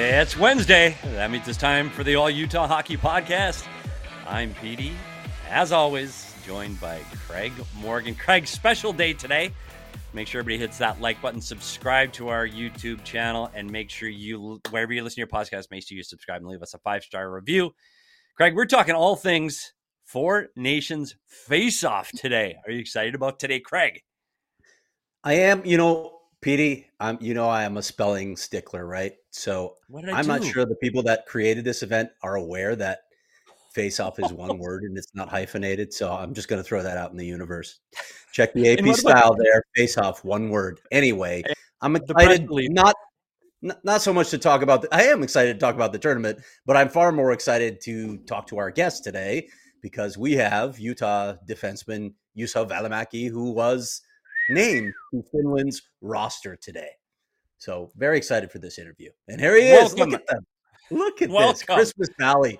It's Wednesday. That means it's time for the All Utah Hockey Podcast. I'm Petey, as always, joined by Craig Morgan. Craig, special day today. Make sure everybody hits that like button, subscribe to our YouTube channel, and make sure you, wherever you listen to your podcast, make sure you subscribe and leave us a 5-star review. Craig, we're talking all things Four Nations Face-Off today. Are you excited about today, Craig? I am. Petey, I am a spelling stickler, right? So I'm not sure the people that created this event are aware that face-off is one word and it's not hyphenated. So I'm just going to throw that out in the universe. Check the AP style there. Face-off, one word. Anyway, I'm excited. Not so much to talk about. I am excited to talk about the tournament, but I'm far more excited to talk to our guest today because we have Utah defenseman Juuso Välimäki, who was named to Finland's roster today. So very excited for this interview. And here he is. Look at them. Look at this. Christmas Valley.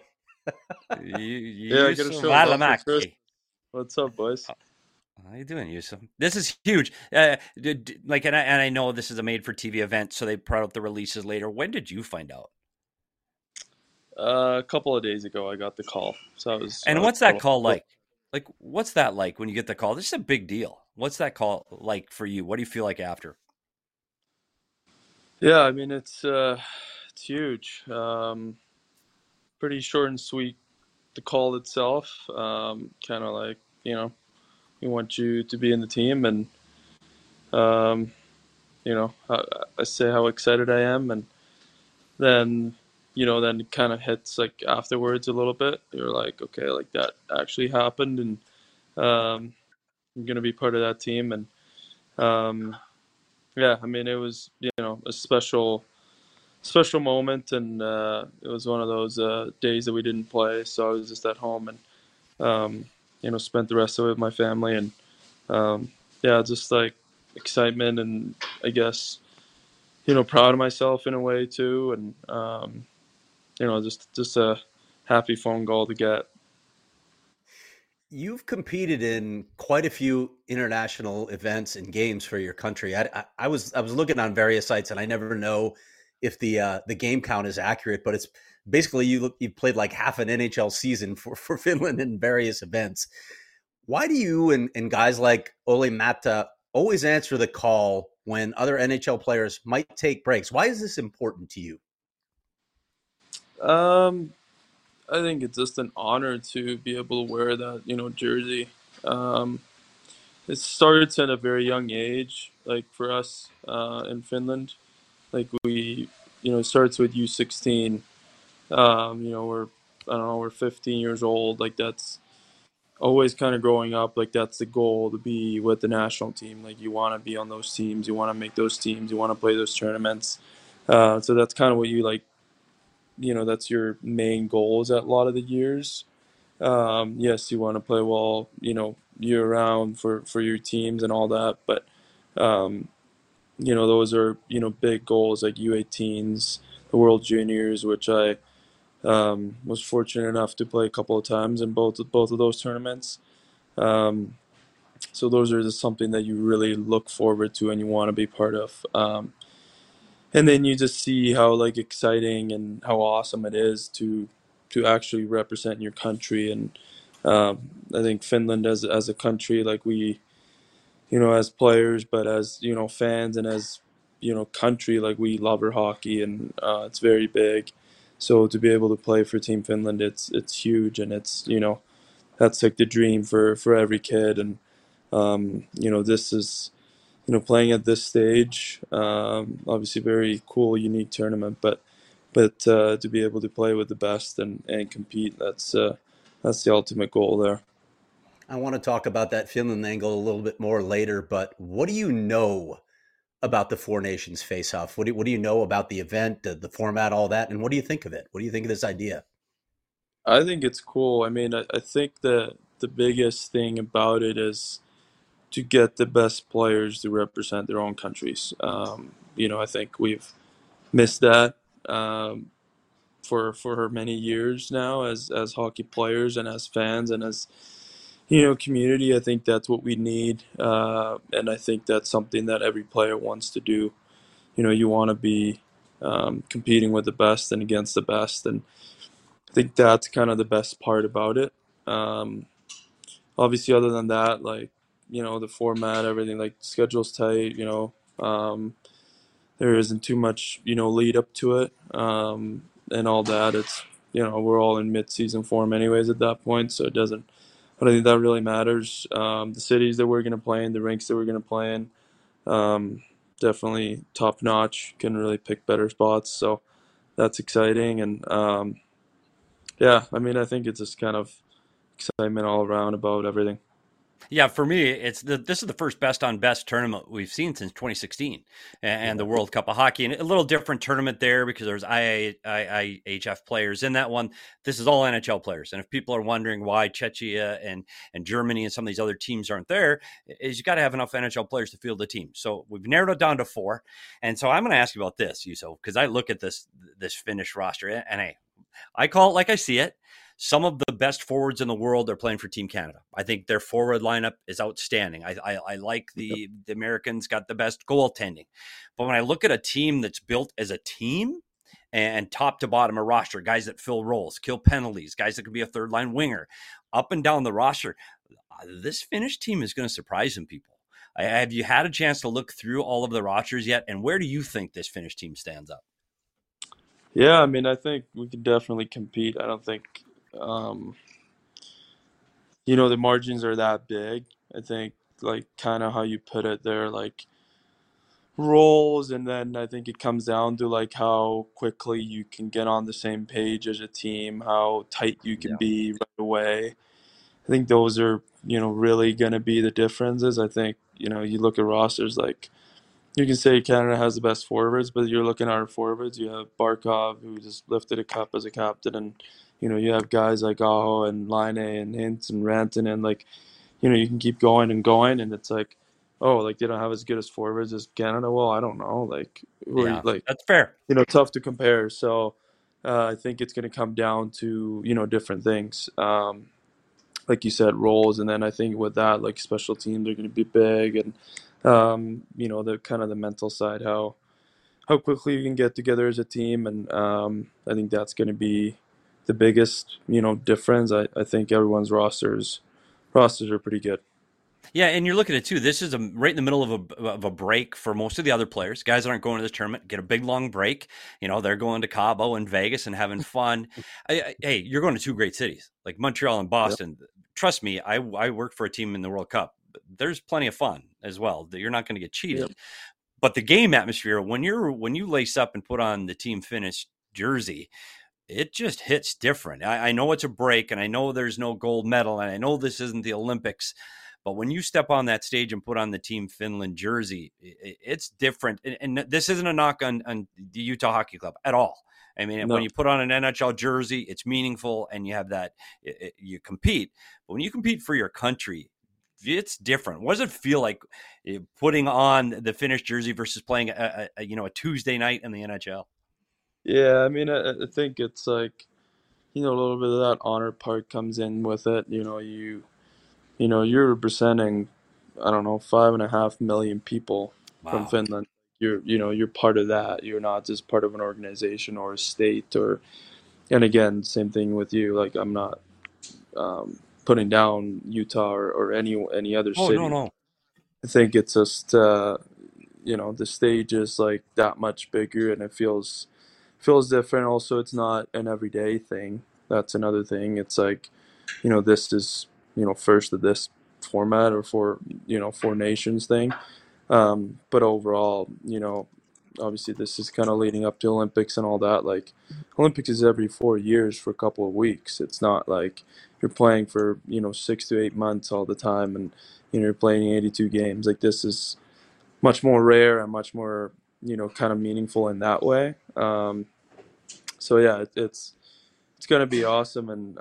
Juuso Välimäki. What's up, boys? How you doing, Juuso? This is huge. And I know this is a made-for-TV event, so they brought out the releases later. When did you find out? A couple of days ago, I got the call. So I was. And what's that call like? Like, what's that like when you get the call? This is a big deal. What's that call like for you? What do you feel like after? Yeah, I mean it's huge. Pretty short and sweet. The call itself, kind of like we want you to be in the team, and I say how excited I am, and then then it kind of hits like afterwards a little bit. You're like, okay, like that actually happened, and I'm gonna be part of that team, and yeah, I mean it was a special moment, and it was one of those days that we didn't play, so I was just at home and spent the rest of it with my family, and yeah, just like excitement, and I guess proud of myself in a way too, and just a happy phone call to get. You've competed in quite a few international events and games for your country. I was looking on various sites, and I never know if the game count is accurate, but it's basically you played like half an NHL season for Finland in various events. Why do you and guys like Olli Maatta always answer the call when other NHL players might take breaks? Why is this important to you? I think it's just an honor to be able to wear that, jersey. It starts at a very young age, like for us in Finland. Like it starts with U16. We're 15 years old. Like that's always kind of growing up. Like that's the goal, to be with the national team. Like you want to be on those teams. You want to make those teams. You want to play those tournaments. So that's kind of what you like. That's your main goals at a lot of the years. Yes, you want to play well, year round for your teams and all that. But, those are, big goals like U18s, the World Juniors, which I was fortunate enough to play a couple of times in both of those tournaments. So those are just something that you really look forward to and you want to be part of. And then you just see how like exciting and how awesome it is to actually represent your country. And I think Finland as a country, like we, as players, but as fans and as country, like we love our hockey, and it's very big. So to be able to play for Team Finland, it's huge, and it's that's like the dream for every kid. And this is. Playing at this stage, obviously very cool, unique tournament, but to be able to play with the best and compete, that's the ultimate goal there. I want to talk about that Finland angle a little bit more later, but what do you know about the Four Nations face-off? What do you know about the event, the format, all that, and what do you think of it? What do you think of this idea? I think it's cool. I mean, I think the biggest thing about it is to get the best players to represent their own countries. I think we've missed that for many years now as hockey players and as fans and as community. I think that's what we need, and I think that's something that every player wants to do. You want to be competing with the best and against the best. And I think that's kind of the best part about it. Obviously, other than that, like, the format, everything, like, schedule's tight, there isn't too much, lead up to it, and all that. It's, we're all in mid-season form anyways at that point, so I don't think that really matters. The cities that we're going to play in, the rinks that we're going to play in, definitely top notch, can really pick better spots, so that's exciting. And yeah, I mean, I think it's just kind of excitement all around about everything. Yeah, for me, this is the first best on best tournament we've seen since 2016, and the World Cup of Hockey, and a little different tournament there because there's IIHF players in that one. This is all NHL players, and if people are wondering why Czechia and Germany and some of these other teams aren't there, is you got to have enough NHL players to field the team. So we've narrowed it down to 4, and so I'm going to ask you about this, Juuso, because I look at this Finnish roster, and I call it like I see it. Some of the best forwards in the world are playing for Team Canada. I think their forward lineup is outstanding. I like the Americans got the best goaltending. But when I look at a team that's built as a team and top to bottom a roster, guys that fill roles, kill penalties, guys that could be a third line winger, up and down the roster, this Finnish team is going to surprise some people. Have you had a chance to look through all of the rosters yet? And where do you think this Finnish team stands up? Yeah, I mean, I think we could definitely compete. I don't think the margins are that big. I think, like, kind of how you put it there, like, roles, and then I think it comes down to, like, how quickly you can get on the same page as a team, how tight you can be right away. I think those are, really going to be the differences. I think, you look at rosters, like, you can say Canada has the best forwards, but you're looking at our forwards. You have Barkov, who just lifted a cup as a captain, and you have guys like Aho and Laine and Hintz and Rantanen, and, like, you can keep going and going, and it's like, oh, like, they don't have as good as forwards as Canada. Well, I don't know, like, Yeah, that's fair. Tough to compare. So I think it's going to come down to different things. Like you said, roles, and then I think with that, like, special teams are going to be big, and the kind of the mental side, how quickly you can get together as a team, and I think that's going to be the biggest difference. I think everyone's rosters are pretty good. Yeah, and you're looking at it too. This is right in the middle of a break for most of the other players. Guys that aren't going to this tournament get a big long break. They're going to Cabo and Vegas and having fun. Hey, you're going to 2 great cities like Montreal and Boston. Yep. Trust me, I worked for a team in the World Cup. There's plenty of fun as well. You're not going to get cheated. Yep. But the game atmosphere, when you lace up and put on the Team Finnish jersey, it just hits different. I know it's a break, and I know there's no gold medal, and I know this isn't the Olympics. But when you step on that stage and put on the Team Finland jersey, it's different. And this isn't a knock on the Utah Hockey Club at all. I mean, when you put on an NHL jersey, it's meaningful, and you have that, you compete. But when you compete for your country, it's different. What does it feel like putting on the Finnish jersey versus playing a Tuesday night in the NHL? Yeah, I mean, I think it's like, a little bit of that honor part comes in with it. You're representing, I don't know, 5.5 million people from Finland. You're part of that. You're not just part of an organization or a state, and again, same thing with you. Like, I'm not putting down Utah or any other city. No. I think it's just, the stage is, like, that much bigger, and it feels different. Also, it's not an everyday thing. That's another thing. It's like, this is, first of this format, or for 4 nations thing. But overall, obviously this is kind of leading up to Olympics and all that. Like, Olympics is every 4 years for a couple of weeks. It's not like you're playing for 6 to 8 months all the time, and you're playing 82 games. Like, this is much more rare and much more kind of meaningful in that way. So yeah, it's going to be awesome, and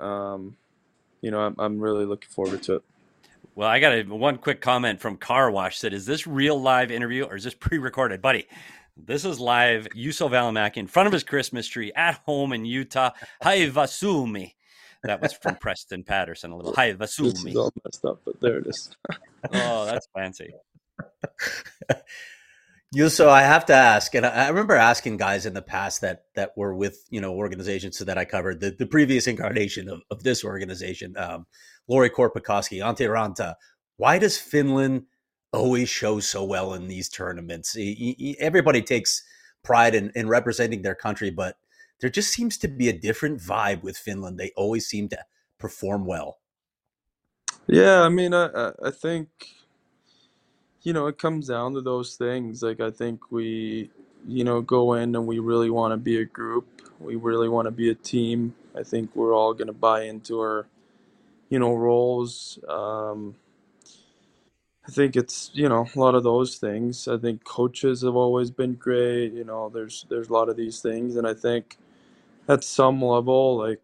I'm really looking forward to it. Well, I got one quick comment from Car Wash. Said, is this real live interview or is this pre-recorded? Buddy, this is live. Juuso Välimäki in front of his Christmas tree at home in Utah. Haiva Suomi. That was from Preston Patterson. A little Haiva Suomi. This is all messed up, but there it is. Oh, that's fancy. So I have to ask, and I remember asking guys in the past that were with organizations that I covered, the previous incarnation of this organization, Lori Korpikoski, Ante Ranta. Why does Finland always show so well in these tournaments? Everybody takes pride in representing their country, but there just seems to be a different vibe with Finland. They always seem to perform well. Yeah, I mean, I think, it comes down to those things. Like, I think we, go in and we really want to be a group. We really want to be a team. I think we're all going to buy into our, roles. I think it's, a lot of those things. I think coaches have always been great. There's a lot of these things. And I think at some level, like,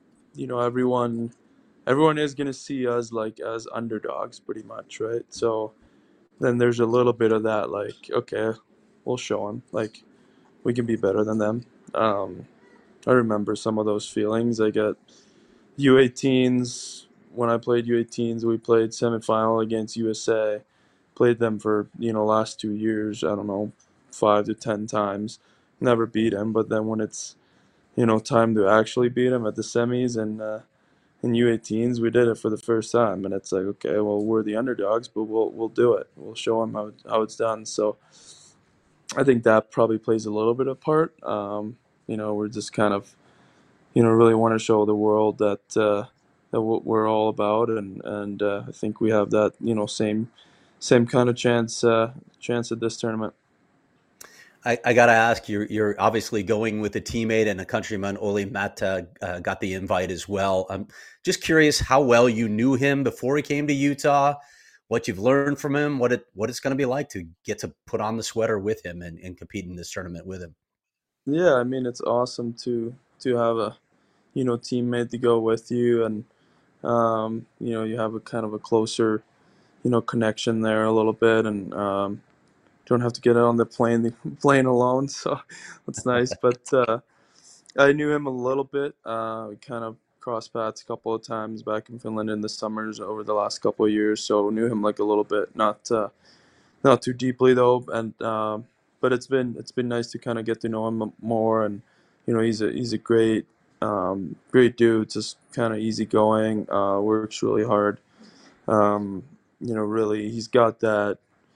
everyone is going to see us like as underdogs pretty much, right? So then there's a little bit of that, like, okay, we'll show them, like, we can be better than them. I remember some of those feelings. Like at U18s, when I played U18s, we played semifinal against USA. Played them for last 2 years. I don't know, 5 to 10 times. Never beat them, but then when it's time to actually beat them at the semis and in U18s, we did it for the first time, and it's like, okay, well, we're the underdogs, but we'll do it. We'll show them how it's done. So I think that probably plays a little bit of part. We're just kind of really want to show the world that what we're all about, and I think we have that same kind of chance at this tournament. I got to ask, you're obviously going with a teammate and a countryman. Olli Määttä got the invite as well. I'm just curious how well you knew him before he came to Utah, what you've learned from him, what it's going to be like to get to put on the sweater with him and compete in this tournament with him. Yeah, I mean, it's awesome to have a teammate to go with you, and you have a kind of a closer connection there a little bit, and don't have to get on the plane alone, so that's nice. But I knew him a little bit. We kind of crossed paths a couple of times back in Finland in the summers over the last couple of years, so knew him like a little bit, not too deeply though. And but it's been nice to kind of get to know him more, and he's a great dude, just kind of easygoing. Works really hard. Really, he's got that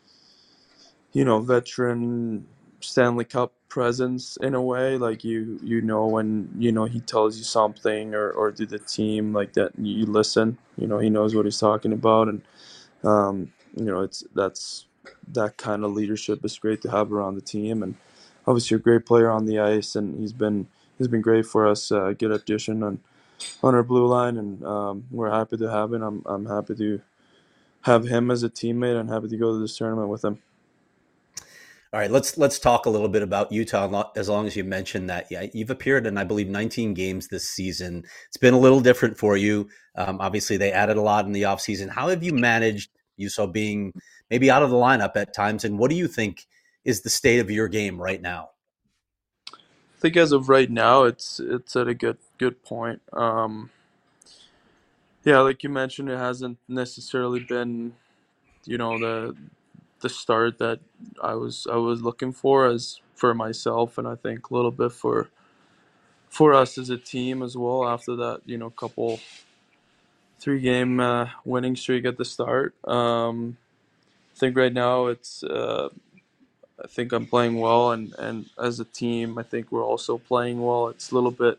veteran Stanley Cup presence in a way. Like when he tells you something or to the team like that, you listen. He knows what he's talking about, and that's that kind of leadership is great to have around the team. And obviously a great player on the ice, and he's been great for us. Good addition on our blue line, and we're happy to have him. I'm happy to have him as a teammate, and happy to go to this tournament with him. All right, let's talk a little bit about Utah. As long as you mentioned that, yeah, you've appeared in, I believe, 19 games this season. It's been a little different for you. Obviously, they added a lot in the offseason. How have you managed Utah being maybe out of the lineup at times, and what do you think is the state of your game right now? I think as of right now, it's at a good point. Yeah, like you mentioned, it hasn't necessarily been the start that I was looking for as for myself, and I think a little bit for us as a team as well. After that, couple 3 game winning streak at the start. I think right now I think I'm playing well, and as a team, I think we're also playing well. It's a little bit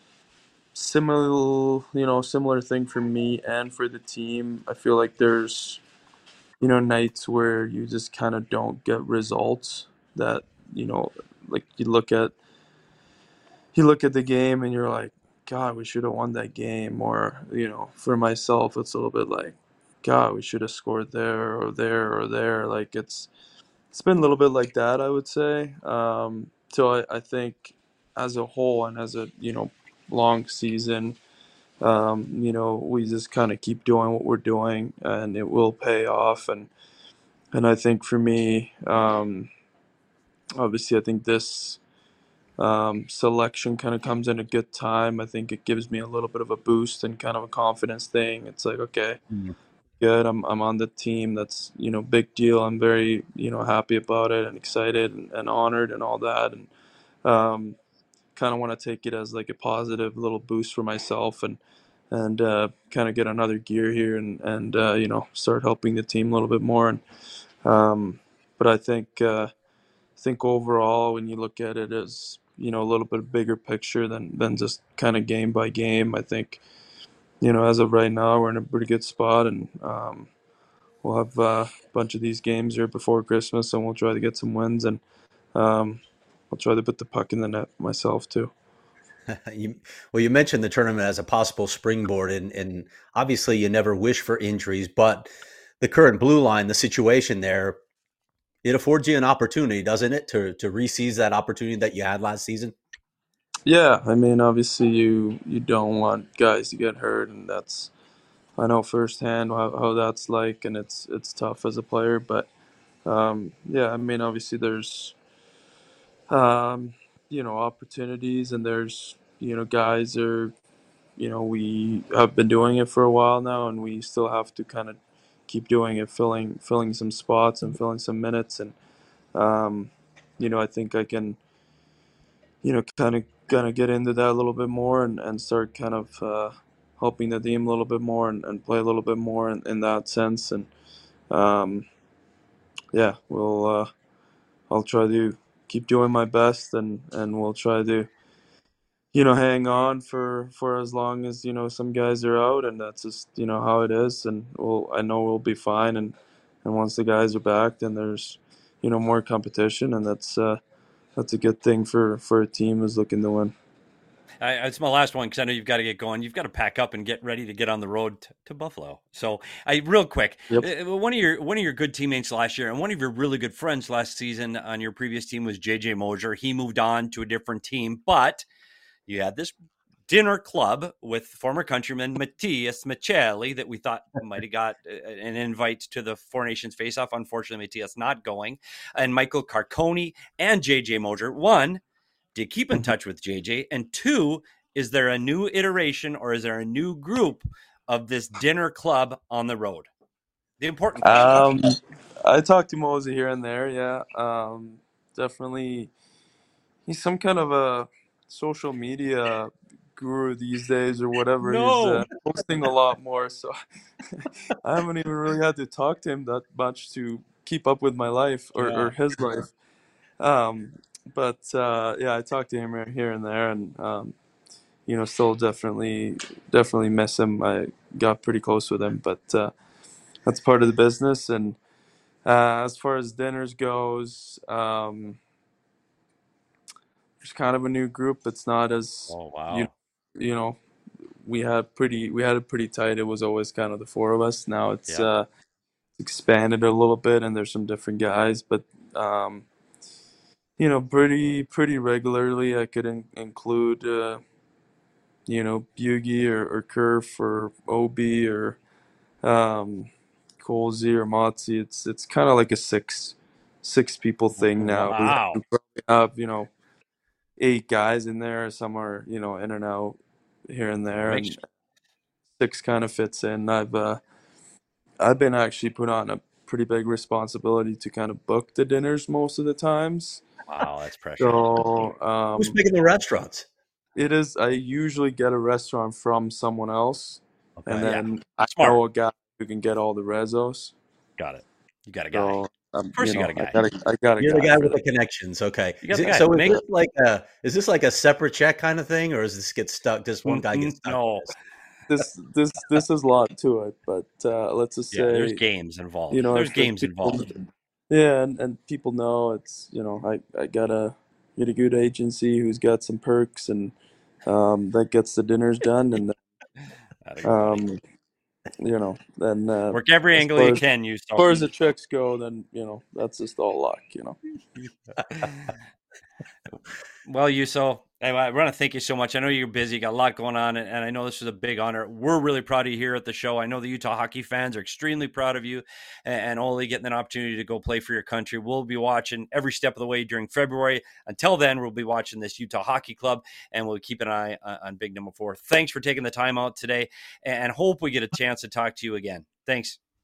similar thing for me and for the team. I feel like there's nights where you just kind of don't get results that you know like you look at the game and you're like, God, we should have won that game. Or for myself, it's a little bit like, God, we should have scored there or there or there. Like it's been a little bit like that, I would say. So I think as a whole and as a long season, we just kind of keep doing what we're doing, and it will pay off. And I think for me, obviously, I think this selection kind of comes in a good time. I think it gives me a little bit of a boost and kind of a confidence thing. It's like, okay, good. I'm on the team. That's, big deal. I'm very, happy about it and excited and honored and all that. And kind of want to take it as like a positive little boost for myself and kind of get another gear here and start helping the team a little bit more. And but I think overall, when you look at it as a little bit bigger picture than just kind of game by game, I think as of right now we're in a pretty good spot, and we'll have a bunch of these games here before Christmas, and we'll try to get some wins, and I'll try to put the puck in the net myself too. You mentioned the tournament as a possible springboard, and obviously you never wish for injuries, but the current blue line, the situation there, it affords you an opportunity, doesn't it, to re-seize that opportunity that you had last season? Yeah, I mean, obviously you don't want guys to get hurt, and I know firsthand how that's like, and it's tough as a player. But yeah, I mean, obviously there's opportunities, and there's guys are we have been doing it for a while now, and we still have to kind of keep doing it, filling some spots and filling some minutes, and um, I think I can kind of get into that a little bit more and start kind of helping the team a little bit more and play a little bit more in that sense. And um, yeah, I'll try to keep doing my best, and we'll try to hang on for as long as some guys are out, and that's just how it is. And I know we'll be fine, and once the guys are back, then there's more competition, and that's a good thing for a team who's looking to win. It's my last one because I know you've got to get going. You've got to pack up and get ready to get on the road to Buffalo. So, real quick, Yep. One of your good teammates last year and one of your really good friends last season on your previous team was JJ Moser. He moved on to a different team, but you had this dinner club with former countryman Matias Michelli that we thought might have got an invite to the Four Nations Faceoff. Unfortunately, Matias not going, and Michael Carconi and JJ Moser. One, do you keep in touch with JJ? And two, is there a new iteration or is there a new group of this dinner club on the road? The important question. I talk to Mosey here and there. Yeah, definitely. He's some kind of a social media guru these days or whatever. He's No. posting a lot more, so I haven't even really had to talk to him that much to keep up with my life or his life. Um, but yeah, I talk to him here and there, and still definitely miss him. I got pretty close with him, but that's part of the business. And as far as dinners goes, there's kind of a new group. It's not as Oh wow. you know we had it pretty tight. It was always kind of the four of us. Now it's expanded a little bit, and there's some different guys, but pretty regularly I could include Bugie or Kerf or OB or Colsey or Motzi. It's kind of like a six people thing now. Wow. We probably have 8 guys in there. Some are in and out here and there, and six kind of fits in. I've been actually put on a pretty big responsibility to kind of book the dinners most of the times. Wow, that's pressure. So who's making the restaurants? It is. I usually get a restaurant from someone else, okay, and then I know a guy who can get all the rezos. Got it. You got a guy. So, of course, you got a guy. I got a You're guy. the guy with the connections. Okay. So is this like a separate check kind of thing, or is this get stuck? Does one guy get stuck? No. This is a lot to it, but let's just say there's games involved. There's games involved. Yeah, and people know it's I got a good agency who's got some perks, and that gets the dinners done, and then work every angle you can. As far as the checks go, then that's just all luck. Well, Juuso, I want to thank you so much. I know you're busy, you got a lot going on, and I know this is a big honor. We're really proud of you here at the show. I know the Utah hockey fans are extremely proud of you, and only getting an opportunity to go play for your country. We'll be watching every step of the way during February. Until then, we'll be watching this Utah Hockey Club, and we'll keep an eye on Big Number 4. Thanks for taking the time out today, and hope we get a chance to talk to you again. Thanks.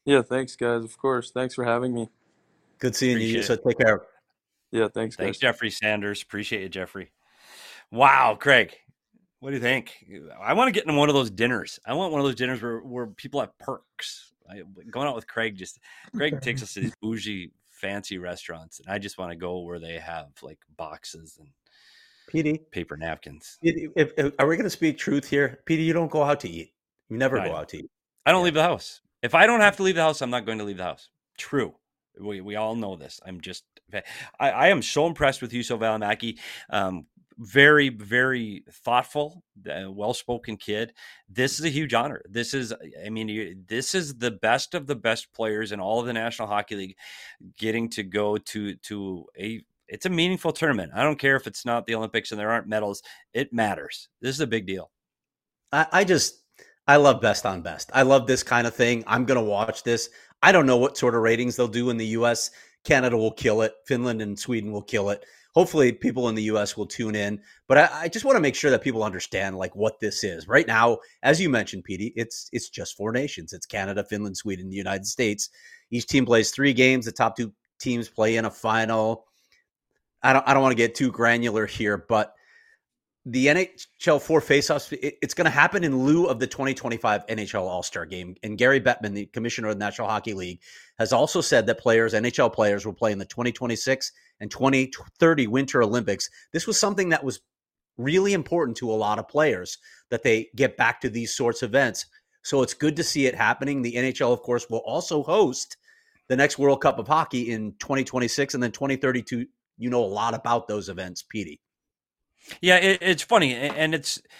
Yeah, thanks, guys. Of course. Thanks for having me. Good seeing you. Appreciate So it. take care. Yeah, thanks, Thanks, guys. Jeffrey Sanders. Appreciate you, Jeffrey. Wow, Craig. What do you think? I want to get in one of those dinners. I want one of those dinners where people have perks. Going out with Craig takes us to these bougie, fancy restaurants, and I just want to go where they have like boxes and PD, paper napkins. if are we going to speak truth here? PD, you don't go out to eat. You never go out to eat. I don't leave the house. If I don't have to leave the house, I'm not going to leave the house. True. We all know this. I am so impressed with Juuso Välimäki. Very, very thoughtful, well-spoken kid. This is a huge honor. This is the best of the best players in all of the National Hockey League getting to go to it's a meaningful tournament. I don't care if it's not the Olympics and there aren't medals. It matters. This is a big deal. I love best on best. I love this kind of thing. I'm going to watch this. I don't know what sort of ratings they'll do in the U.S. Canada will kill it. Finland and Sweden will kill it. Hopefully people in the U.S. will tune in. But I just want to make sure that people understand like what this is. Right now, as you mentioned, Petey, it's just 4 nations. It's Canada, Finland, Sweden, the United States. Each team plays 3 games. The top 2 teams play in a final. I don't want to get too granular here, but the NHL 4 faceoffs, it's going to happen in lieu of the 2025 NHL All-Star Game. And Gary Bettman, the commissioner of the National Hockey League, has also said that NHL players will play in the 2026 and 2030 Winter Olympics. This was something that was really important to a lot of players, that they get back to these sorts of events. So it's good to see it happening. The NHL, of course, will also host the next World Cup of Hockey in 2026 and then 2032. You know a lot about those events, Petey. Yeah, it's funny, and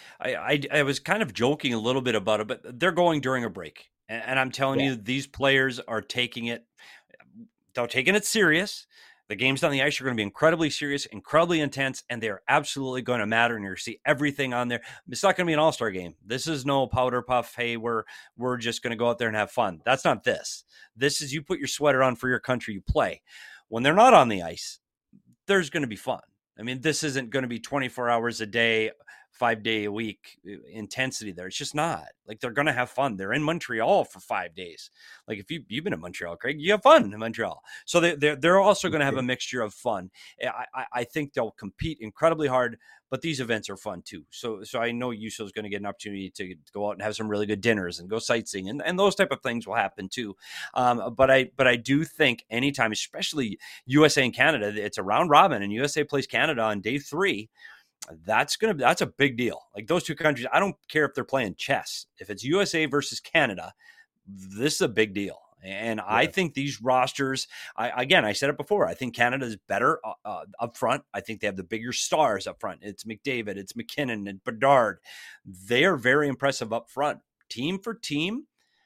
I was kind of joking a little bit about it, but they're going during a break, and I'm telling you, these players are taking it. They're taking it serious. The games on the ice are going to be incredibly serious, incredibly intense, and they're absolutely going to matter. And you're going to see everything on there. It's not going to be an all-star game. This is no powder puff. Hey, we're just going to go out there and have fun. That's not this. This is you put your sweater on for your country. You play. When they're not on the ice, there's going to be fun. I mean, this isn't going to be 24 hours a day, 5 day a week intensity there. It's just not. Like, they're going to have fun. They're in Montreal for 5 days. Like, if you've been in Montreal, Craig, you have fun in Montreal. So they're also going to have a mixture of fun. I think they'll compete incredibly hard, but these events are fun too. So I know Juuso is going to get an opportunity to go out and have some really good dinners and go sightseeing, and those type of things will happen too. But I do think anytime, especially USA and Canada, it's a round robin, and USA plays Canada on day 3. That's a big deal. Like, those 2 countries, I don't care if they're playing chess. If it's USA versus Canada, this is a big deal. And I think these rosters, I said it before, I think Canada is better up front. I think they have the bigger stars up front. It's McDavid, it's McKinnon, and Bedard. They are very impressive up front. Team for team,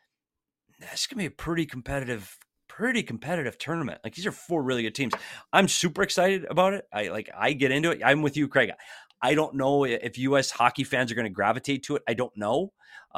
that's going to be a pretty competitive tournament. Like, these are 4 really good teams. I'm super excited about it. I get into it. I'm with you, Craig. I don't know if U.S. hockey fans are going to gravitate to it. I don't know.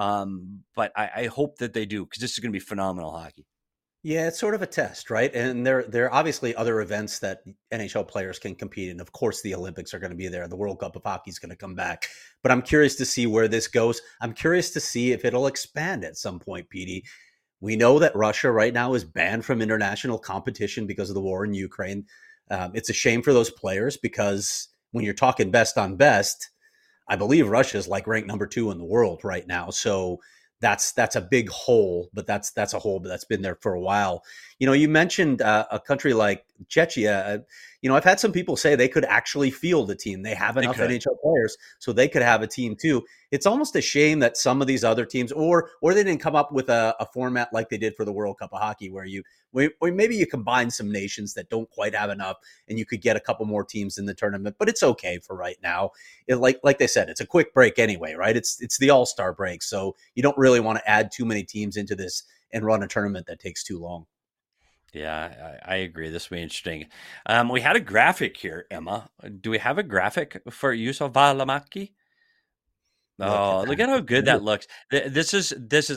But I hope that they do, because this is going to be phenomenal hockey. Yeah, it's sort of a test, right? And there are obviously other events that NHL players can compete in. Of course, the Olympics are going to be there. The World Cup of Hockey is going to come back. But I'm curious to see where this goes. I'm curious to see if it'll expand at some point, Petey. We know that Russia right now is banned from international competition because of the war in Ukraine. It's a shame for those players, because when you're talking best on best, I believe Russia is like ranked number 2 in the world right now. So that's a big hole, but that's a hole that's been there for a while. You know, you mentioned a country like Czechia. You know, I've had some people say they could actually field a team. They have enough NHL players, so they could have a team too. It's almost a shame that some of these other teams, or they didn't come up with a format like they did for the World Cup of Hockey, where maybe you combine some nations that don't quite have enough, and you could get a couple more teams in the tournament. But it's okay for right now. Like they said, it's a quick break anyway, right? It's the All-Star break, so you don't really want to add too many teams into this and run a tournament that takes too long. Yeah, I agree. This will be interesting. We had a graphic here, Emma. Do we have a graphic for Juuso Välimäki? Oh, look at how good that looks. This is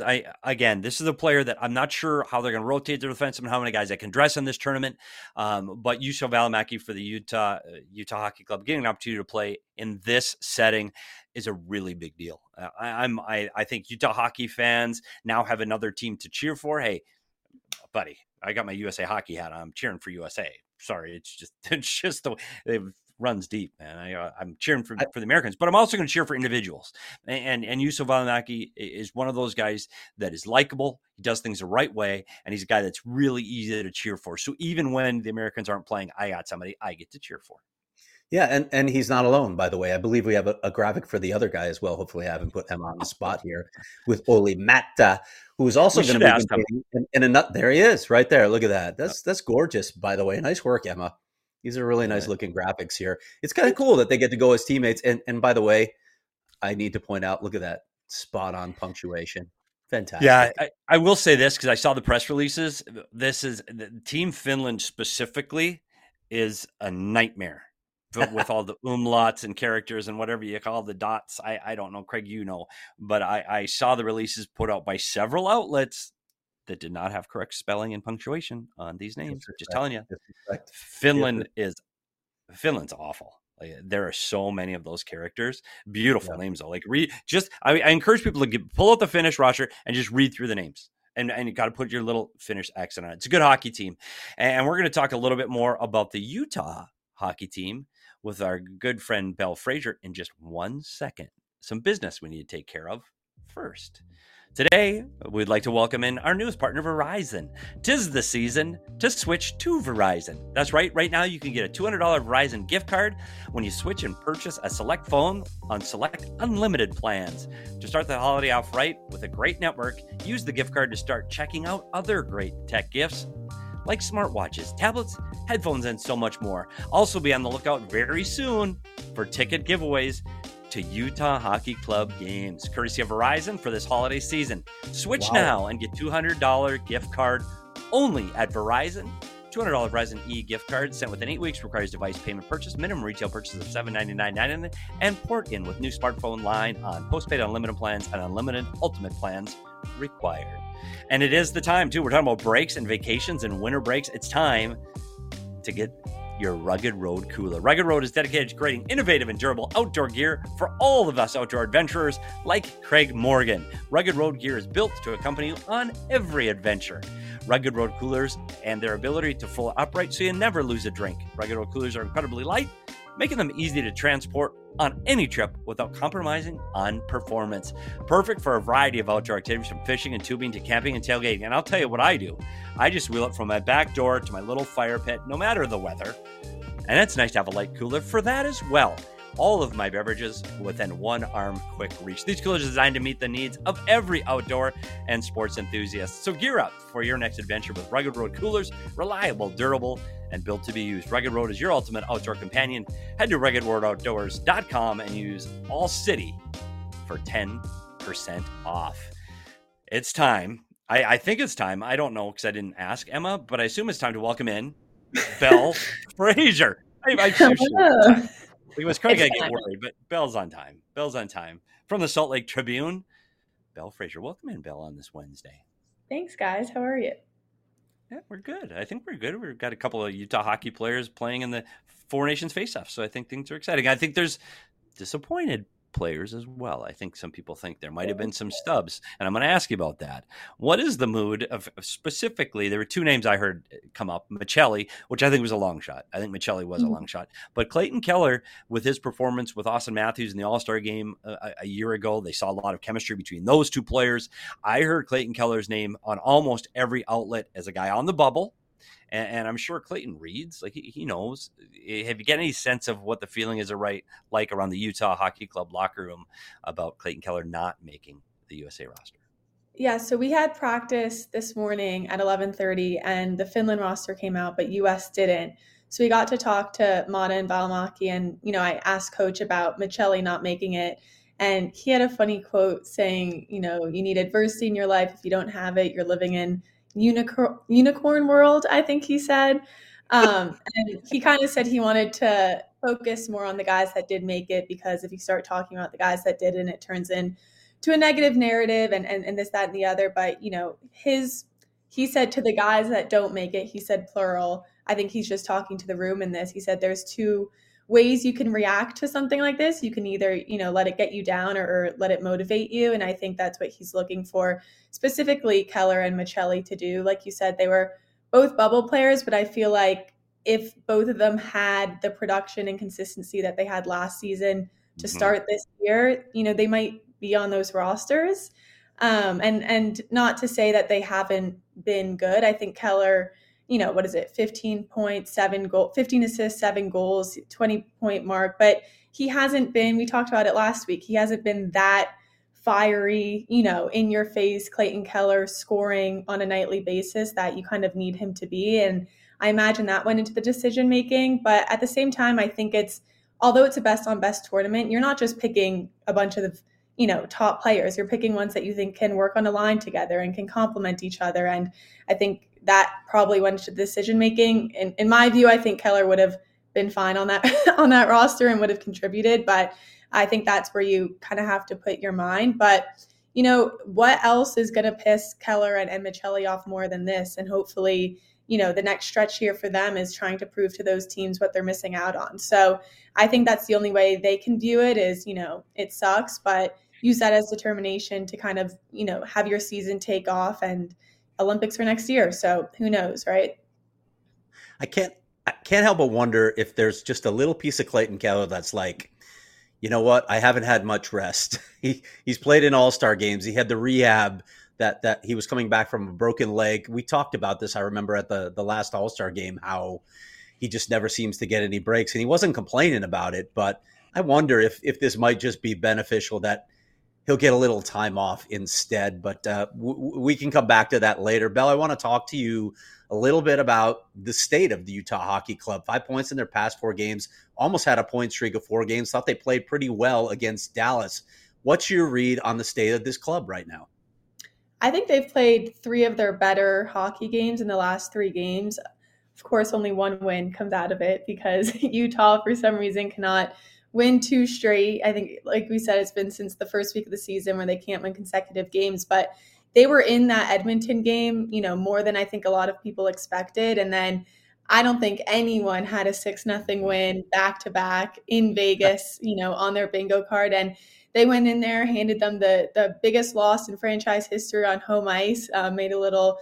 a player that I'm not sure how they're going to rotate their defensemen and how many guys they can dress in this tournament. But Juuso Välimäki for the Utah Hockey Club, getting an opportunity to play in this setting is a really big deal. I think Utah hockey fans now have another team to cheer for. Hey, buddy, I got my USA hockey hat on. I'm cheering for USA. Sorry, it's just the way it runs deep, man. I'm cheering for the Americans, but I'm also going to cheer for individuals. And Juuso Valimaki is one of those guys that is likable. He does things the right way, and he's a guy that's really easy to cheer for. So even when the Americans aren't playing, I got somebody I get to cheer for. Yeah, and he's not alone, by the way. I believe we have a graphic for the other guy as well. Hopefully I haven't put Emma on the spot here with Olli Määttä, who is also going to be in a nut. There he is, right there. Look at that. That's gorgeous, by the way. Nice work, Emma. These are really nice looking graphics here. It's kind of cool that they get to go as teammates. And by the way, I need to point out, look at that spot on punctuation. Fantastic. Yeah, I will say this because I saw the press releases. This is Team Finland specifically is a nightmare. With all the umlauts and characters and whatever you call the dots. I don't know, Craig, but I saw the releases put out by several outlets that did not have correct spelling and punctuation on these names. Just telling you, Finland's awful. Like, there are so many of those characters. Beautiful names though. Like I encourage people to pull out the Finnish roster and just read through the names. And you got to put your little Finnish accent on it. It's a good hockey team. And we're going to talk a little bit more about the Utah hockey team with our good friend Belle Fraser in just 1 second. Some business we need to take care of first. Today, we'd like to welcome in our newest partner, Verizon. 'Tis the season to switch to Verizon. That's right. Right now, you can get a $200 Verizon gift card when you switch and purchase a select phone on select unlimited plans. To start the holiday off right with a great network, use the gift card to start checking out other great tech gifts like smartwatches, tablets, headphones, and so much more. Also be on the lookout very soon for ticket giveaways to Utah Hockey Club games, courtesy of Verizon for this holiday season. Switch now and get $200 gift card only at Verizon. $200 Verizon gift card sent within 8 weeks, requires device payment purchase, minimum retail purchase of $799.99, and port in with new smartphone line on postpaid unlimited plans and unlimited ultimate plans required. And it is the time, too. We're talking about breaks and vacations and winter breaks. It's time to get your Rugged Road cooler. Rugged Road is dedicated to creating innovative and durable outdoor gear for all of us outdoor adventurers like Craig Morgan. Rugged Road gear is built to accompany you on every adventure. Rugged Road coolers and their ability to fold upright so you never lose a drink. Rugged Road coolers are incredibly light, making them easy to transport on any trip without compromising on performance. Perfect for a variety of outdoor activities, from fishing and tubing to camping and tailgating. And I'll tell you what I do. I just wheel it from my back door to my little fire pit, no matter the weather. And it's nice to have a light cooler for that as well. All of my beverages within one arm quick reach. These coolers are designed to meet the needs of every outdoor and sports enthusiast. So gear up for your next adventure with Rugged Road coolers, reliable, durable, and built to be used. Rugged Road is your ultimate outdoor companion. Head to ruggedroadoutdoors.com and use AllCity for 10% off. It's time. I think it's time. I don't know because I didn't ask Emma, but I assume it's time to welcome in Belle Fraser. Because Craig, I get worried, but Belle's on time. Belle's on time. From the Salt Lake Tribune, Belle Fraser. Welcome in, Belle, on this Wednesday. Thanks, guys. How are you? Yeah, we're good. I think we're good. We've got a couple of Utah hockey players playing in the Four Nations face-off, so I think things are exciting. I think there's disappointed players as well. I think some people think there might have been some stubs, and I'm going to ask you about that. What is the mood of specifically? There were two names I heard come up: Maccelli, which I think was a long shot. I think Maccelli was a long shot, but Clayton Keller, with his performance with Auston Matthews in the All-Star game a year ago, they saw a lot of chemistry between those two players. I heard Clayton Keller's name on almost every outlet as a guy on the bubble. And I'm sure Clayton reads, like he knows. Have you got any sense of what the feeling is like around the Utah Hockey Club locker room about Clayton Keller not making the USA roster? Yeah, so we had practice this morning at 11:30, and the Finland roster came out, but US didn't. So we got to talk to Maatta and Valimaki, and I asked Coach about Maccelli not making it, and he had a funny quote saying, you need adversity in your life. If you don't have it, you're living in unicorn world, I think he said. And he kind of said he wanted to focus more on the guys that did make it, because if you start talking about the guys that didn't, it turns into a negative narrative and this, that, and the other. But, he said to the guys that don't make it, he said plural. I think he's just talking to the room in this. He said there's two ways you can react to something like this. You can either, let it get you down or let it motivate you. And I think that's what he's looking for, specifically Keller and Machelli to do. Like you said, they were both bubble players, but I feel like if both of them had the production and consistency that they had last season to start this year, they might be on those rosters. And not to say that they haven't been good. I think Keller, 15 assists, 7 goals, 20-point mark, but he hasn't been, we talked about it last week, he hasn't been that fiery, in your face Clayton Keller scoring on a nightly basis that you kind of need him to be. And I imagine that went into the decision making. But at the same time, I think although it's a best on best tournament, you're not just picking a bunch of top players. You're picking ones that you think can work on a line together and can complement each other. And I think that probably went into decision making. In my view, I think Keller would have been fine on that on that roster and would have contributed. But I think that's where you kind of have to put your mind. But what else is going to piss Keller and Machelli off more than this? And hopefully, the next stretch here for them is trying to prove to those teams what they're missing out on. So I think that's the only way they can view it is, it sucks, but use that as determination to kind of, have your season take off, and Olympics for next year. So who knows, right? I can't help but wonder if there's just a little piece of Clayton Keller that's like, you know what? I haven't had much rest. He's played in all-star games. He had the rehab that he was coming back from a broken leg. We talked about this, I remember, at the last all-star game, how he just never seems to get any breaks. And he wasn't complaining about it, but I wonder if this might just be beneficial that he'll get a little time off instead. But we can come back to that later. Bell, I want to talk to you a little bit about the state of the Utah Hockey Club. 5 points in their past 4 games, almost had a point streak of 4 games. Thought they played pretty well against Dallas. What's your read on the state of this club right now? I think they've played 3 of their better hockey games in the last 3 games. Of course, only 1 win comes out of it because Utah, for some reason, cannot win 2 straight. I think, like we said, it's been since the first week of the season where they can't win consecutive games. But they were in that Edmonton game, more than I think a lot of people expected. And then I don't think anyone had a 6-0 win back-to-back in Vegas, on their bingo card. And they went in there, handed them the biggest loss in franchise history on home ice, made a little,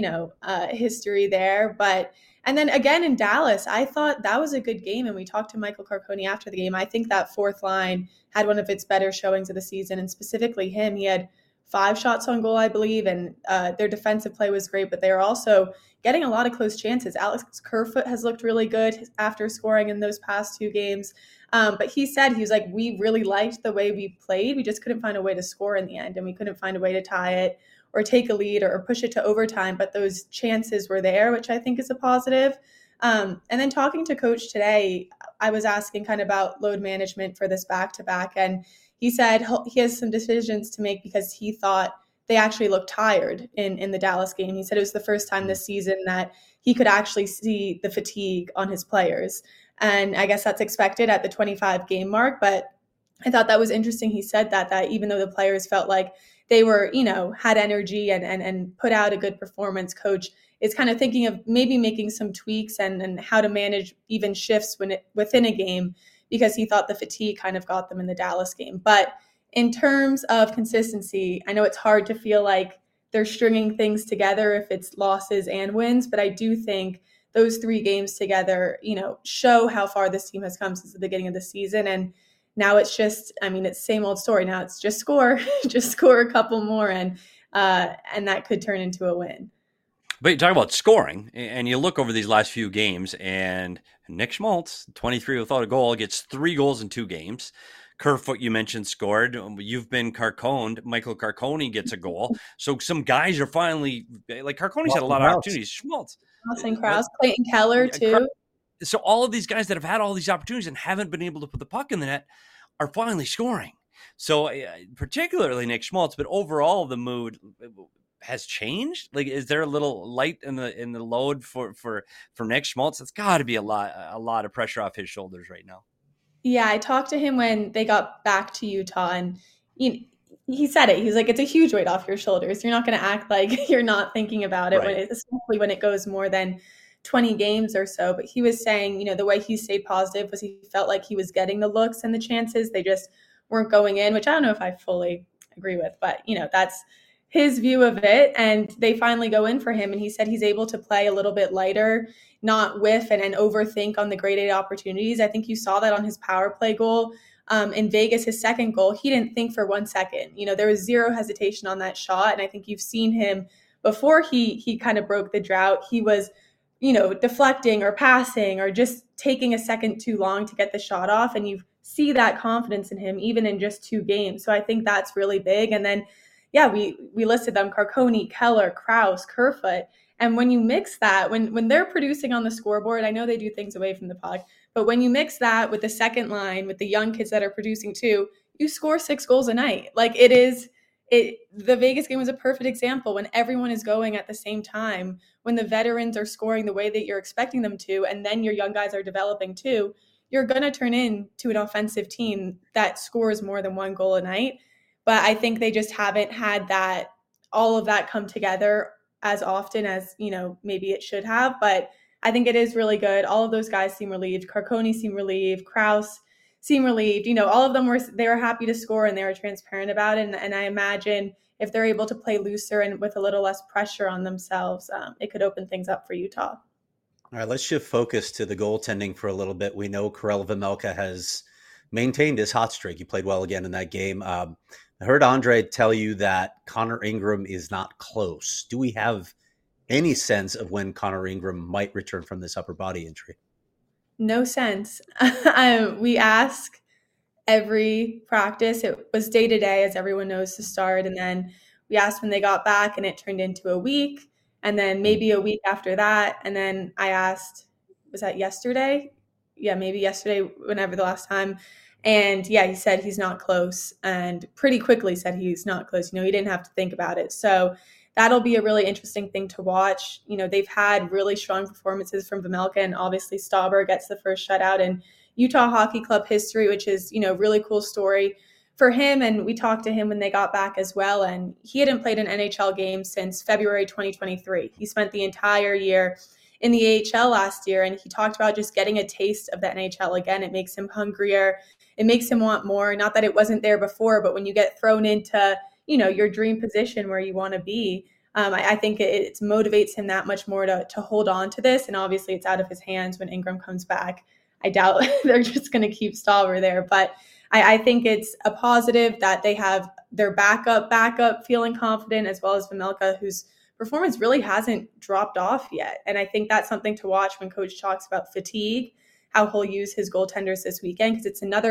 history there. And then again in Dallas, I thought that was a good game. And we talked to Michael Carcone after the game. I think that fourth line had one of its better showings of the season. And specifically him, he had 5 shots on goal, I believe. And their defensive play was great, but they were also getting a lot of close chances. Alex Kerfoot has looked really good after scoring in those past 2 games. But he was like, we really liked the way we played. We just couldn't find a way to score in the end. And we couldn't find a way to tie it or take a lead or push it to overtime. But those chances were there, which I think is a positive. And then talking to Coach today, I was asking kind of about load management for this back-to-back. And he said he has some decisions to make because he thought they actually looked tired in the Dallas game. He said it was the first time this season that he could actually see the fatigue on his players. And I guess that's expected at the 25 game mark. But I thought that was interesting. He said that even though the players felt like they were, had energy and put out a good performance, Coach is kind of thinking of maybe making some tweaks and how to manage even shifts within a game, because he thought the fatigue kind of got them in the Dallas game. But in terms of consistency, I know it's hard to feel like they're stringing things together if it's losses and wins, but I do think those 3 games together, show how far this team has come since the beginning of the season. And now it's just, it's same old story. Now it's just score a couple more, and that could turn into a win. But you talk about scoring, and you look over these last few games, and Nick Schmaltz, 23 without a goal, gets 3 goals in 2 games. Kerfoot, you mentioned, scored. You've been Carconed. Michael Carcone gets a goal. So some guys are finally, like Carcone's had a lot of opportunities. Schmaltz. Austin Krause, Clayton Keller, too. So all of these guys that have had all these opportunities and haven't been able to put the puck in the net are finally scoring. So particularly Nick Schmaltz, but overall the mood has changed. Like, is there a little light in the load for Nick Schmaltz? It's got to be a lot of pressure off his shoulders right now. Yeah, I talked to him when they got back to Utah, and he said it. He's like, it's a huge weight off your shoulders. You're not going to act like you're not thinking about it, right, especially when it goes more than 20 games or so, but he was saying, the way he stayed positive was he felt like he was getting the looks and the chances. They just weren't going in, which I don't know if I fully agree with, but that's his view of it. And they finally go in for him. And he said he's able to play a little bit lighter, not whiff and overthink on the grade A opportunities. I think you saw that on his power play goal. In Vegas, his second goal, he didn't think for 1 second. There was zero hesitation on that shot. And I think you've seen him before he kind of broke the drought. He was, deflecting or passing or just taking a second too long to get the shot off. And you see that confidence in him, even in just 2 games. So I think that's really big. And then, yeah, we listed them: Carcone, Keller, Kraus, Kerfoot. And when you mix that, when they're producing on the scoreboard, I know they do things away from the puck, but when you mix that with the second line, with the young kids that are producing too, you score 6 goals a night. Like the Vegas game was a perfect example. When everyone is going at the same time, when the veterans are scoring the way that you're expecting them to, and then your young guys are developing too, you're going to turn into an offensive team that scores more than 1 goal a night. But I think they just haven't had all of that come together as often as, maybe it should have. But I think it is really good. All of those guys seem relieved. Carcone seemed relieved. Kraus seem relieved. All of them they were happy to score and they were transparent about it. And I imagine if they're able to play looser and with a little less pressure on themselves, it could open things up for Utah. All right, let's shift focus to the goaltending for a little bit. We know Karel Vejmelka has maintained his hot streak. He played well again in that game. I heard Andre tell you that Connor Ingram is not close. Do we have any sense of when Connor Ingram might return from this upper body injury? No sense. We ask every practice. It was day to day, as everyone knows, to start. And then we asked when they got back, and it turned into a week. And then maybe a week after that. And then I asked, was that yesterday? Yeah, maybe yesterday, whenever the last time. And yeah, he said he's not close, and pretty quickly said he's not close. He didn't have to think about it. So that'll be a really interesting thing to watch. They've had really strong performances from Vejmelka, and obviously Stauber gets the first shutout in Utah Hockey Club history, which is, really cool story for him. And we talked to him when they got back as well. And he hadn't played an NHL game since February 2023. He spent the entire year in the AHL last year. And he talked about just getting a taste of the NHL again. It makes him hungrier. It makes him want more. Not that it wasn't there before, but when you get thrown into, your dream position where you want to be, I think it motivates him that much more to hold on to this. And obviously it's out of his hands when Ingram comes back. I doubt they're just going to keep Stauber there, but I think it's a positive that they have their backup feeling confident, as well as Vejmelka, whose performance really hasn't dropped off yet. And I think that's something to watch when coach talks about fatigue, how he'll use his goaltenders this weekend, because it's another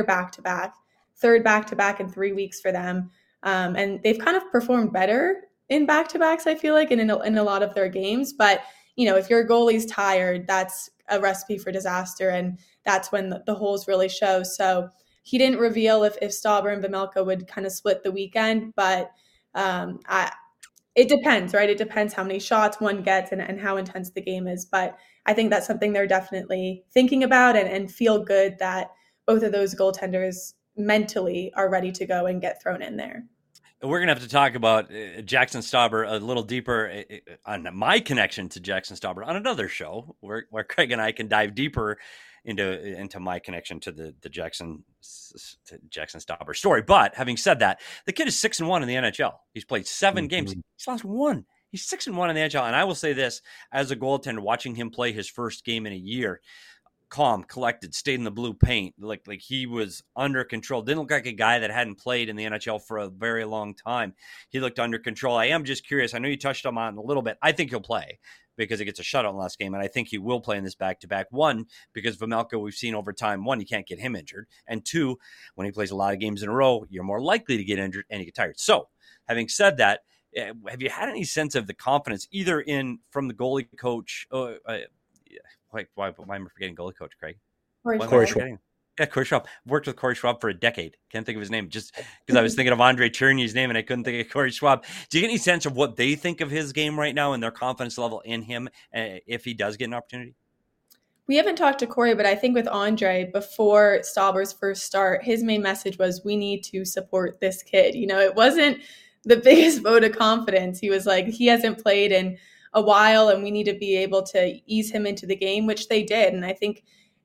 third back-to-back in 3 weeks for them. And they've kind of performed better in back-to-backs, I feel like, and in a lot of their games. But, if your goalie's tired, that's a recipe for disaster. And that's when the holes really show. So he didn't reveal if Stauber and Vejmelka would kind of split the weekend, but it depends, right? It depends how many shots one gets and how intense the game is. But I think that's something they're definitely thinking about, and feel good that both of those goaltenders mentally are ready to go and get thrown in there. We're going to have to talk about Jaxson Stauber a little deeper on my connection to Jaxson Stauber on another show where Craig and I can dive deeper into my connection to the Jaxson Stauber story. But having said that, the kid is 6-1 in the NHL. He's played 7 games. He's lost 1. He's 6-1 in the NHL. And I will say this, as a goaltender, watching him play his first game in a year, calm, collected, stayed in the blue paint, like he was under control. Didn't look like a guy that hadn't played in the NHL for a very long time. He looked under control. I am just curious. I know you touched on it a little bit. I think he'll play because he gets a shutout in the last game, and I think he will play in this back-to-back. 1, because Vejmelka, we've seen over time, 1, you can't get him injured, and 2, when he plays a lot of games in a row, you're more likely to get injured and you get tired. So, having said that, have you had any sense of the confidence either from the goalie coach? Why am I forgetting goalie coach, Craig? Corey Schwab. Yeah, Corey Schwab. Worked with Corey Schwab for a decade. Can't think of his name just because I was thinking of Andre Cherney's name and I couldn't think of Corey Schwab. Do you get any sense of what they think of his game right now and their confidence level in him if he does get an opportunity? We haven't talked to Corey, but I think with Andre, before Stauber's first start, his main message was, we need to support this kid. It wasn't the biggest vote of confidence. He was like, he hasn't played in a while and we need to be able to ease him into the game, which they did. And I think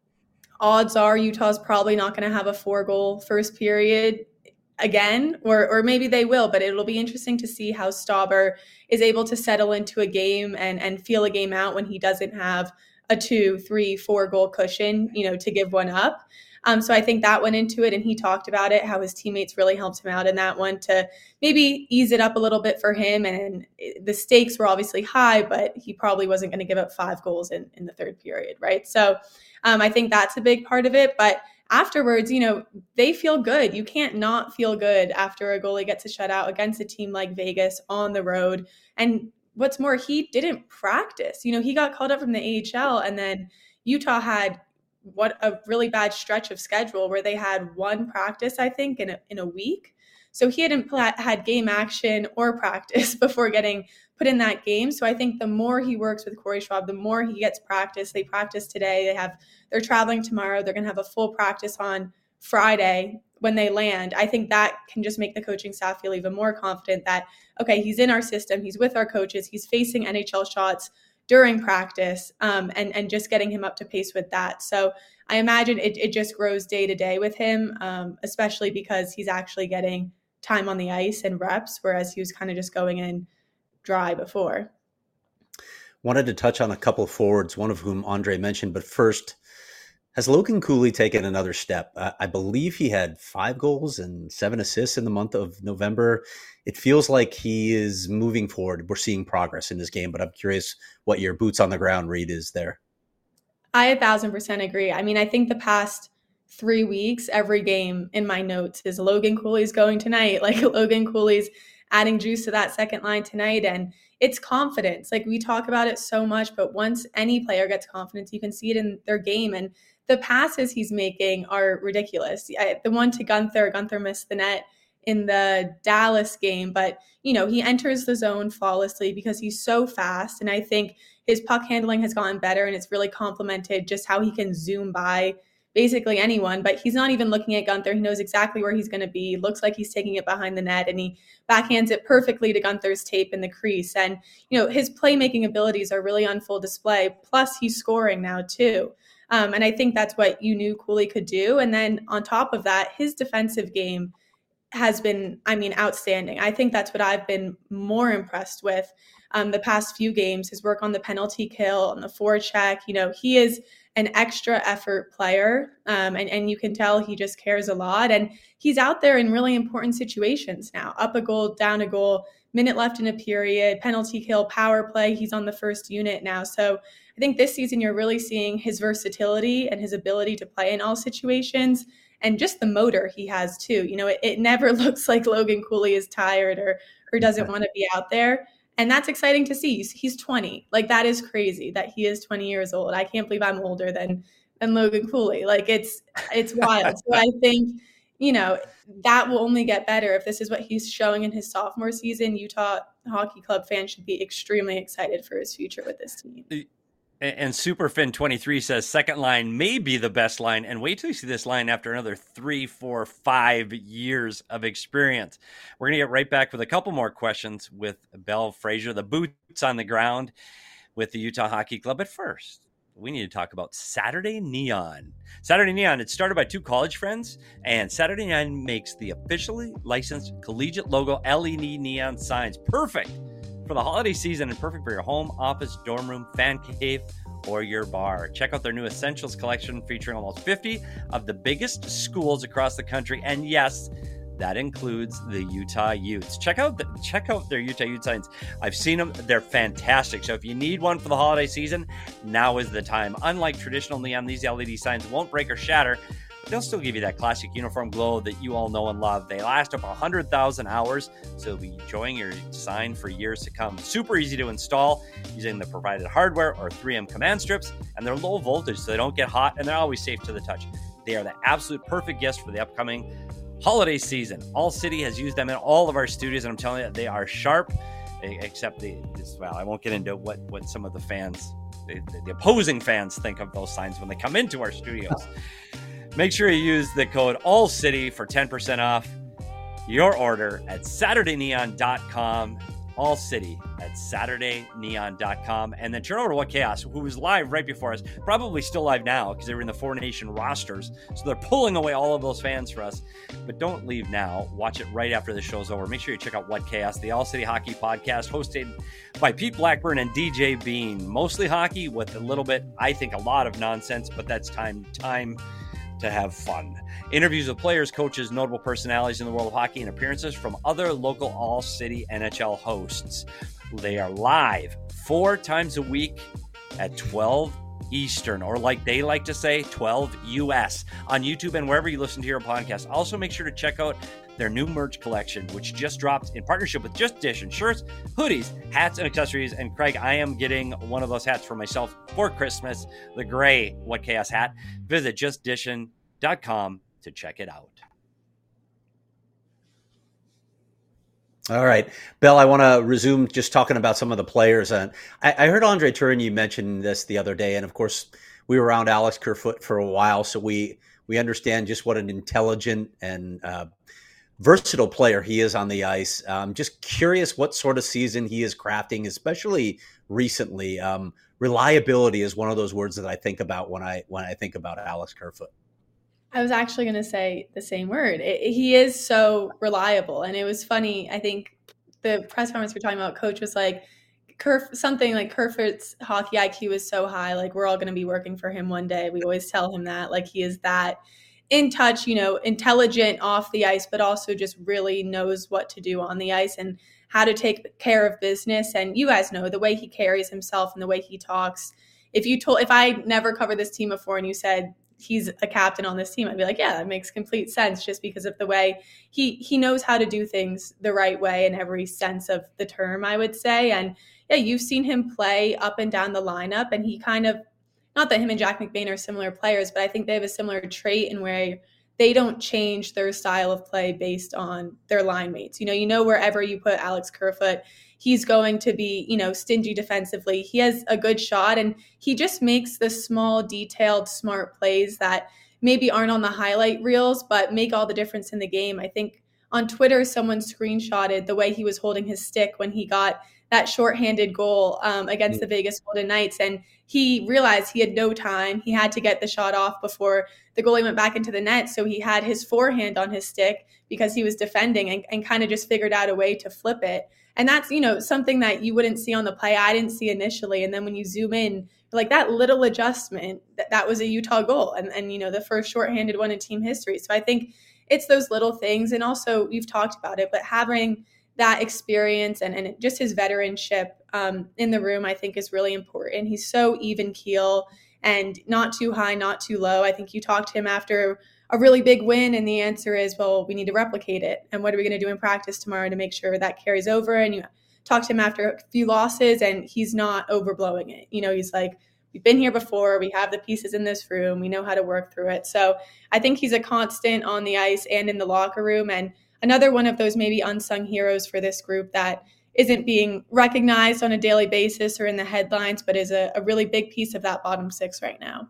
odds are Utah's probably not going to have a 4-goal first period again, or maybe they will, but it'll be interesting to see how Stauber is able to settle into a game and feel a game out when he doesn't have a 2, 3, 4-goal cushion, to give one up. So I think that went into it, and he talked about it, how his teammates really helped him out in that one to maybe ease it up a little bit for him. And the stakes were obviously high, but he probably wasn't going to give up 5 goals in the third period, right? So I think that's a big part of it. But afterwards, they feel good. You can't not feel good after a goalie gets a shutout against a team like Vegas on the road. And what's more, he didn't practice. He got called up from the AHL, and then Utah had a really bad stretch of schedule where they had 1 practice, I think, in a week. So he hadn't had game action or practice before getting put in that game. So I think the more he works with Corey Schwab, the more he gets practice. They practice today. They're traveling tomorrow. They're going to have a full practice on Friday when they land. I think that can just make the coaching staff feel even more confident that, okay, he's in our system. He's with our coaches. He's facing NHL shots during practice, and just getting him up to pace with that. So I imagine it just grows day to day with him, especially because he's actually getting time on the ice and reps, whereas he was kind of just going in dry before. Wanted to touch on a couple of forwards, one of whom Andre mentioned, but first, has Logan Cooley taken another step? I believe he had 5 goals and 7 assists in the month of November. It feels like he is moving forward. We're seeing progress in this game, but I'm curious what your boots on the ground read is there. I 1,000% agree. I mean, I think the past 3 weeks, every game in my notes is Logan Cooley's going tonight. Like Logan Cooley's adding juice to that second line tonight. And it's confidence. Like we talk about it so much, but once any player gets confidence, you can see it in their game. And the passes he's making are ridiculous. The one to Gunther missed the net in the Dallas game, but he enters the zone flawlessly because he's so fast. And I think his puck handling has gotten better, and it's really complemented just how he can zoom by basically anyone, but he's not even looking at Gunther. He knows exactly where he's going to be. Looks like he's taking it behind the net, and he backhands it perfectly to Gunther's tape in the crease. And, his playmaking abilities are really on full display. Plus he's scoring now too. And I think that's what you knew Cooley could do. And then on top of that, his defensive game has been, outstanding. I think that's what I've been more impressed with the past few games, his work on the penalty kill, on the forecheck. He is an extra effort player, and you can tell he just cares a lot. And he's out there in really important situations now. Up a goal, down a goal, minute left in a period, penalty kill, power play. He's on the first unit now. So I think this season you're really seeing his versatility and his ability to play in all situations, and just the motor he has too. It never looks like Logan Cooley is tired or doesn't want to be out there. And that's exciting to see. He's 20. Like, that is crazy that he is 20 years old. I can't believe I'm older than Logan Cooley. Like, it's wild. So I think, that will only get better if this is what he's showing in his sophomore season. Utah Hockey Club fans should be extremely excited for his future with this team. And Superfin23 says second line may be the best line, and wait till you see this line after another 3, 4, 5 years of experience. We're going to get right back with a couple more questions with Belle Fraser, the boots on the ground with the Utah Hockey Club. But first, we need to talk about Saturday Neon. Saturday Neon, it's started by 2 college friends, and Saturday Neon makes the officially licensed collegiate logo LED neon signs. Perfect for the holiday season and perfect for your home, office, dorm room, fan cave, or your bar. Check out their new Essentials collection featuring almost 50 of the biggest schools across the country. And yes, that includes the Utah Utes. Check out their Utah Ute signs. I've seen them. They're fantastic. So if you need one for the holiday season, now is the time. Unlike traditional neon, these LED signs won't break or shatter. They'll still give you that classic uniform glow that you all know and love. They last up 100,000 hours, so you'll be enjoying your sign for years to come. Super easy to install using the provided hardware or 3M command strips, and they're low voltage, so they don't get hot, and they're always safe to the touch. They are the absolute perfect gift for the upcoming holiday season. All City has used them in all of our studios, and I'm telling you, they are sharp, except I won't get into what some of the fans, the opposing fans think of those signs when they come into our studios. Make sure you use the code ALLCITY for 10% off your order at SaturdayNeon.com. All City at SaturdayNeon.com. And then turn over to What Chaos, who was live right before us, probably still live now because they were in the 4Nation rosters. So they're pulling away all of those fans for us. But don't leave now. Watch it right after the show's over. Make sure you check out What Chaos, the All City Hockey podcast, hosted by Pete Blackburn and DJ Bean. Mostly hockey with a little bit, I think, a lot of nonsense, but that's time to have fun. Interviews with players, coaches, notable personalities in the world of hockey, and appearances from other local All-City NHL hosts. They are live 4 times a week at 12 Eastern, or like they like to say, 12 US, on YouTube and wherever you listen to your podcast. Also, make sure to check out their new merch collection, which just dropped in partnership with Just Dishin'. Shirts, hoodies, hats, and accessories. And Craig, I am getting one of those hats for myself for Christmas, the gray What Chaos hat. Visit justdishin.com to check it out. All right, Bill, I want to resume just talking about some of the players. And I heard Andre Tourigny mention this the other day. And of course, we were around Alex Kerfoot for a while, so we understand just what an intelligent and versatile player he is on the ice. Just curious what sort of season he is crafting, especially recently. Reliability is one of those words that I think about when I think about Alex Kerfoot. I was actually going to say the same word. He is so reliable. And it was funny. I think the press conference we're talking about, coach was like, something like Kerfoot's hockey IQ is so high. Like, we're all going to be working for him one day. We always tell him that. Like, he is that in touch, intelligent off the ice, but also just really knows what to do on the ice and how to take care of business. And you guys know the way he carries himself and the way he talks. If I never covered this team before and you said, he's a captain on this team, I'd be like, yeah, that makes complete sense, just because of the way he knows how to do things the right way in every sense of the term, I would say. And yeah, you've seen him play up and down the lineup, and he kind of, not that him and Jack McBain are similar players, but I think they have a similar trait in where they don't change their style of play based on their line mates. You know, wherever you put Alex Kerfoot, he's going to be, stingy defensively. He has a good shot, and he just makes the small, detailed, smart plays that maybe aren't on the highlight reels, but make all the difference in the game. I think on Twitter, someone screenshotted the way he was holding his stick when he got that shorthanded goal against the Vegas Golden Knights. And he realized he had no time. He had to get the shot off before the goalie went back into the net. So he had his forehand on his stick because he was defending, and kind of just figured out a way to flip it. And that's, something that you wouldn't see on the play. I didn't see initially. And then when you zoom in, like that little adjustment, that was a Utah goal. And the first shorthanded one in team history. So I think it's those little things. And also, you've talked about it, but having that experience and just his veteranship in the room, I think, is really important. He's so even keel and not too high, not too low. I think you talked to him after a really big win, and the answer is, well, we need to replicate it. And what are we going to do in practice tomorrow to make sure that carries over? And you talk to him after a few losses, and he's not overblowing it. He's like, we've been here before. We have the pieces in this room. We know how to work through it. So I think he's a constant on the ice and in the locker room, and another one of those maybe unsung heroes for this group that isn't being recognized on a daily basis or in the headlines, but is a really big piece of that bottom six right now.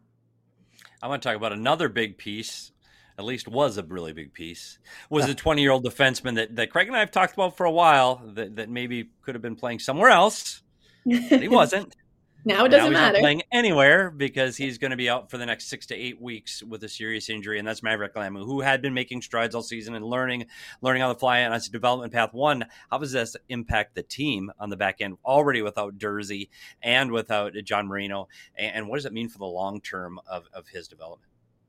I want to talk about another big piece, at least was a really big piece, was a 20-year-old defenseman that Craig and I have talked about for a while that maybe could have been playing somewhere else, but he wasn't. Now it doesn't matter. Not playing anywhere because he's going to be out for the next 6 to 8 weeks with a serious injury, and that's Maverick Lamu, who had been making strides all season and learning on the fly on his development path. One, how does this impact the team on the back end, already without Durzi and without John Marino, and what does it mean for the long term of his development?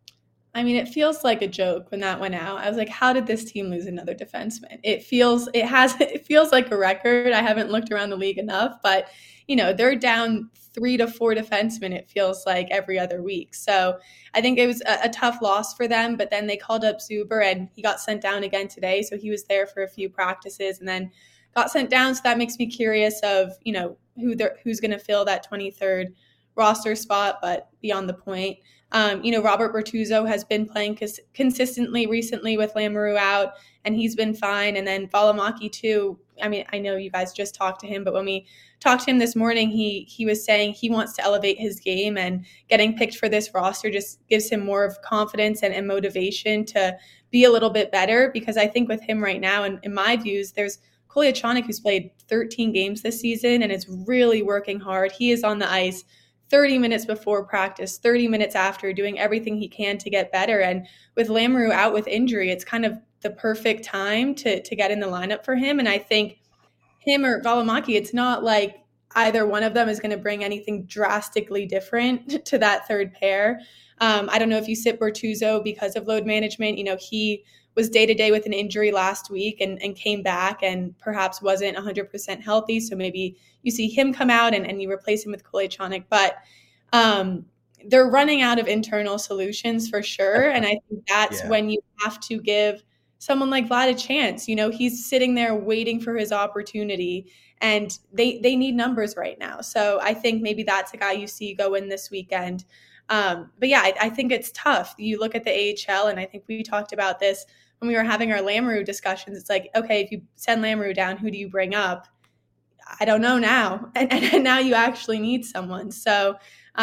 I mean, it feels like a joke when that went out. I was like, how did this team lose another defenseman? It feels like a record. I haven't looked around the league enough, but they're down 3 to 4 defensemen, it feels like, every other week. So I think it was a tough loss for them, but then they called up Zuber, and he got sent down again today. So he was there for a few practices and then got sent down. So that makes me curious of, who's going to fill that 23rd roster spot, but beyond the point. Robert Bertuzzo has been playing consistently recently with Lamoureux out, and he's been fine. And then Valimaki too. I mean, I know you guys just talked to him, but when we talked to him this morning, he was saying he wants to elevate his game, and getting picked for this roster just gives him more of confidence and motivation to be a little bit better, because I think with him right now, and in my views, there's Kolyachonok, who's played 13 games this season and is really working hard. He is on the ice 30 minutes before practice, 30 minutes after, doing everything he can to get better. And with Lamoureux out with injury, it's kind of the perfect time to get in the lineup for him. And I think him or Valimaki, it's not like either one of them is going to bring anything drastically different to that third pair. I don't know if you sit Bortuzzo because of load management. He was day-to-day with an injury last week and came back and perhaps wasn't 100% healthy. So maybe you see him come out and you replace him with Kolyachonok. But they're running out of internal solutions for sure. And I think that's when you have to give someone like Vlad a chance. He's sitting there waiting for his opportunity, and they need numbers right now. So I think maybe that's a guy you see go in this weekend. But yeah, I think it's tough. You look at the AHL, and I think we talked about this when we were having our Lamoureux discussions. It's like, okay, if you send Lamoureux down, who do you bring up? I don't know now. And now you actually need someone. So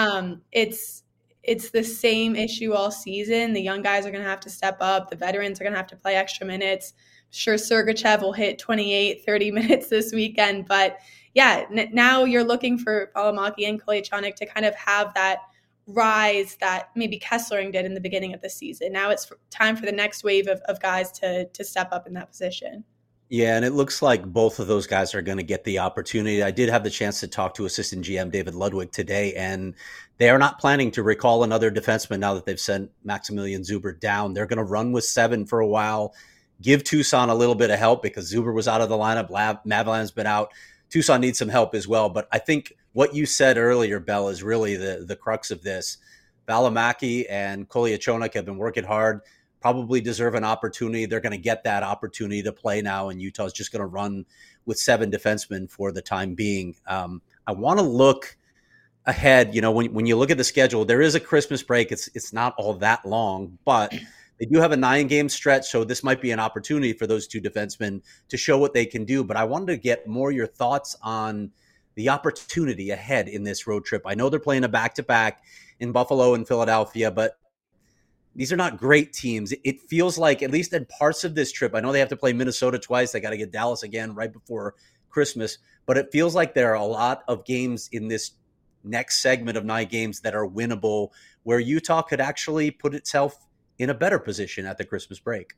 it's the same issue all season. The young guys are going to have to step up. The veterans are going to have to play extra minutes. Sure, Sergachev will hit 28, 30 minutes this weekend. But yeah, now you're looking for Valimaki and Kolyachonok to kind of have that rise that maybe Kesslering did in the beginning of the season. Now it's time for the next wave of guys to step up in that position. Yeah, and it looks like both of those guys are going to get the opportunity. I did have the chance to talk to assistant GM David Ludwig today, and they are not planning to recall another defenseman now that they've sent Maximilian Zuber down. They're going to run with 7 for a while, give Tucson a little bit of help because Zuber was out of the lineup. Mavalan's been out. Tucson needs some help as well. But I think what you said earlier, Bell, is really the crux of this. Valimaki and Kolyachonok have been working hard, probably deserve an opportunity. They're going to get that opportunity to play now, and Utah's just going to run with 7 defensemen for the time being. I want to look ahead. When you look at the schedule, there is a Christmas break. It's not all that long, but they do have a 9-game stretch, so this might be an opportunity for those 2 defensemen to show what they can do. But I wanted to get more your thoughts on the opportunity ahead in this road trip. I know they're playing a back-to-back in Buffalo and Philadelphia, but these are not great teams. It feels like, at least in parts of this trip, I know they have to play Minnesota twice. They got to get Dallas again right before Christmas. But it feels like there are a lot of games in this next segment of 9 games that are winnable, where Utah could actually put itself in a better position at the Christmas break.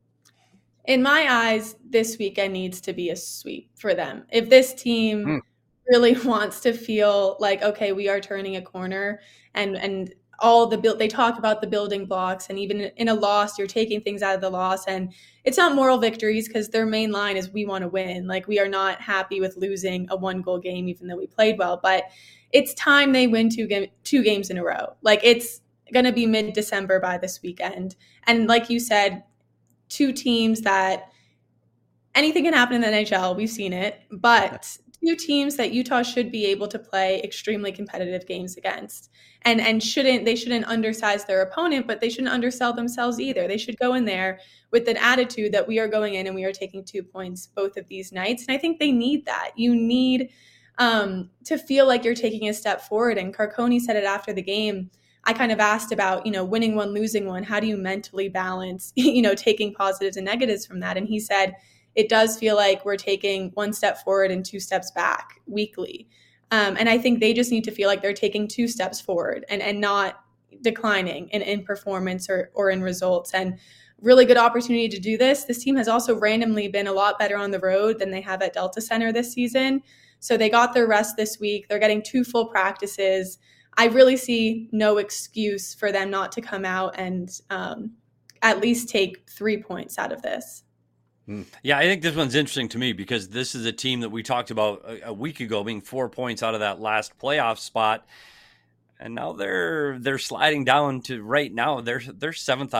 In my eyes, this weekend needs to be a sweep for them. If this team really wants to feel like, okay, we are turning a corner, and all they talk about the building blocks, and even in a loss, you're taking things out of the loss, and it's not moral victories because their main line is we want to win. Like, we are not happy with losing a 1-goal game, even though we played well, but it's time they win 2 games in a row. Like, it's going to be mid-December by this weekend. And like you said, 2 teams that anything can happen in the NHL. We've seen it, but 2 teams that Utah should be able to play extremely competitive games against. And they shouldn't undersize their opponent, but they shouldn't undersell themselves either. They should go in there with an attitude that we are going in and we are taking 2 points both of these nights. And I think they need that. You need to feel like you're taking a step forward. And Carconi said it after the game. I kind of asked about, winning one, losing one. How do you mentally balance, taking positives and negatives from that? And he said, it does feel like we're taking 1 step forward and 2 steps back weekly. And I think they just need to feel like they're taking 2 steps forward and not declining in performance or in results. And really good opportunity to do this. This team has also randomly been a lot better on the road than they have at Delta Center this season. So they got their rest this week. They're getting 2 full practices. I really see no excuse for them not to come out and at least take 3 points out of this. Yeah, I think this one's interesting to me because this is a team that we talked about a week ago being 4 points out of that last playoff spot. And now they're sliding down to right now. They're 7th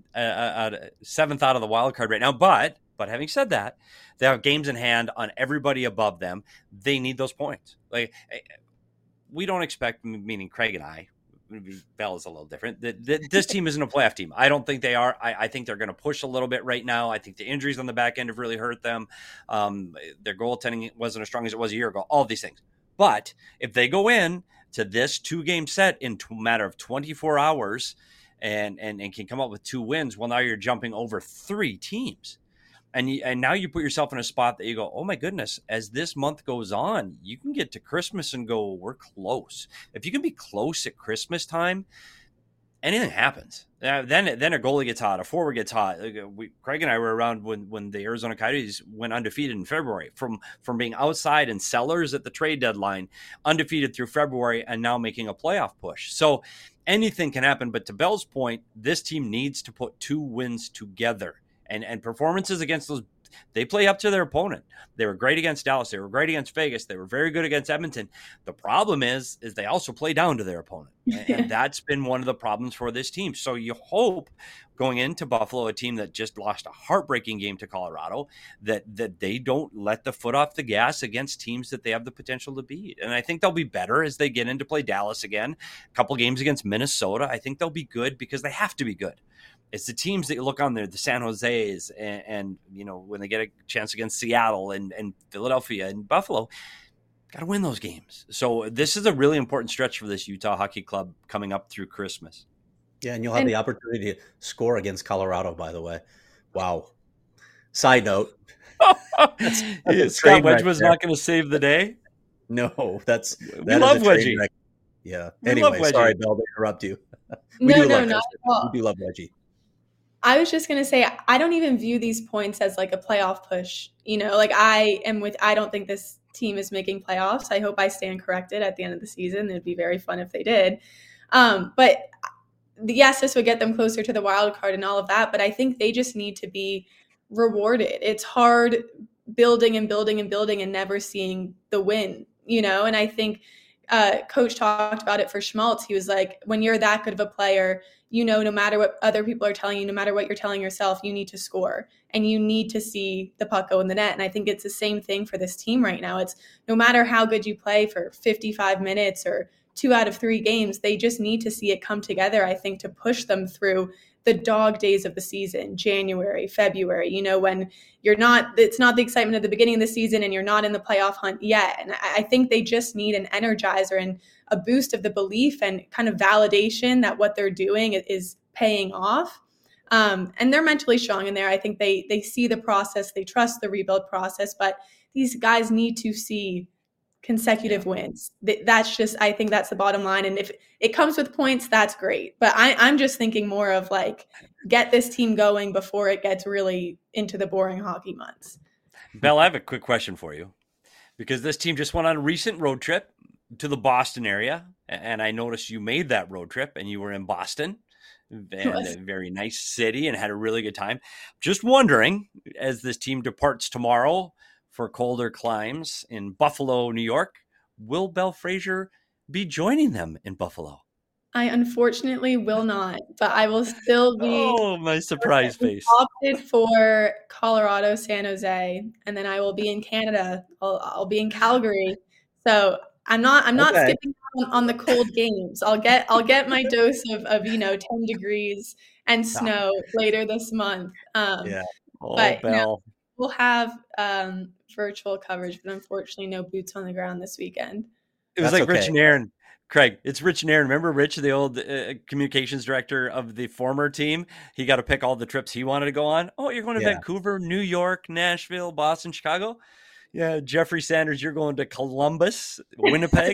out of the wild card right now. But having said that, they have games in hand on everybody above them. They need those points. Like, we don't expect, meaning Craig and I, Bell is a little different. This team isn't a playoff team. I don't think they are. I think they're going to push a little bit right now. I think the injuries on the back end have really hurt them. Their goaltending wasn't as strong as it was a year ago. All of these things. But if they go in to this 2-game set in a matter of 24 hours and can come up with 2 wins, well, now you're jumping over 3 teams. And now you put yourself in a spot that you go, oh my goodness, as this month goes on, you can get to Christmas and go, we're close. If you can be close at Christmas time, anything happens. Then a goalie gets hot, a forward gets hot. Craig and I were around when the Arizona Coyotes went undefeated in February, from being outside in sellers at the trade deadline, undefeated through February, and now making a playoff push. So anything can happen. But to Bell's point, this team needs to put 2 wins together. And performances against those, they play up to their opponent. They were great against Dallas. They were great against Vegas. They were very good against Edmonton. The problem is they also play down to their opponent. And that's been one of the problems for this team. So you hope going into Buffalo, a team that just lost a heartbreaking game to Colorado, that they don't let the foot off the gas against teams that they have the potential to beat. And I think they'll be better as they get into play Dallas again. A couple games against Minnesota. I think they'll be good because they have to be good. It's the teams that you look on there, the San Jose's, and when they get a chance against Seattle and Philadelphia and Buffalo, got to win those games. So this is a really important stretch for this Utah Hockey Club coming up through Christmas. Yeah, and you'll have the opportunity to score against Colorado, by the way. Wow. Side note. that's Scott Wedge was not going to save the day? No, we love Wedgie. Yeah. Anyway, sorry, Bell, to interrupt you. No, not at all. We do love Wedgie. I was just going to say, I don't even view these points as like a playoff push. I don't think this team is making playoffs. I hope I stand corrected at the end of the season. It'd be very fun if they did. But yes, this would get them closer to the wild card and all of that. But I think they just need to be rewarded. It's hard building and building and building and never seeing the win, and I think Coach talked about it for Schmaltz. He was like, when you're that good of a player, no matter what other people are telling you, no matter what you're telling yourself, you need to score and you need to see the puck go in the net. And I think it's the same thing for this team right now. It's no matter how good you play for 55 minutes or 2 out of 3 games, they just need to see it come together, I think, to push them through the dog days of the season, January, February, when it's not the excitement of the beginning of the season and you're not in the playoff hunt yet. And I think they just need an energizer and a boost of the belief and kind of validation that what they're doing is paying off. And they're mentally strong in there. I think they see the process, they trust the rebuild process, but these guys need to see consecutive wins. That's just, I think that's the bottom line. And if it comes with points, that's great. But I'm just thinking more of like, get this team going before it gets really into the boring hockey months. Bell, I have a quick question for you, because this team just went on a recent road trip to the Boston area. And I noticed you made that road trip and you were in Boston, and a very nice city, and had a really good time. Just wondering, as this team departs tomorrow for colder climes in Buffalo, New York, will Bell Fraser be joining them in Buffalo? I unfortunately will not, but I will still be. Oh, my surprise face. Opted for Colorado, San Jose, and then I will be in Canada. I'll be in Calgary. So I'm not skipping on the cold games. I'll get my dose of 10 degrees and snow later this month. Yeah. Oh, but Bell. We'll have virtual coverage, but unfortunately no boots on the ground this weekend. It was Rich and Aaron. Craig, it's Rich and Aaron. Remember Rich, the old communications director of the former team? He got to pick all the trips he wanted to go on. Oh, you're going to Vancouver, New York, Nashville, Boston, Chicago. Yeah, Jeffrey Sanders, you're going to Columbus, Winnipeg.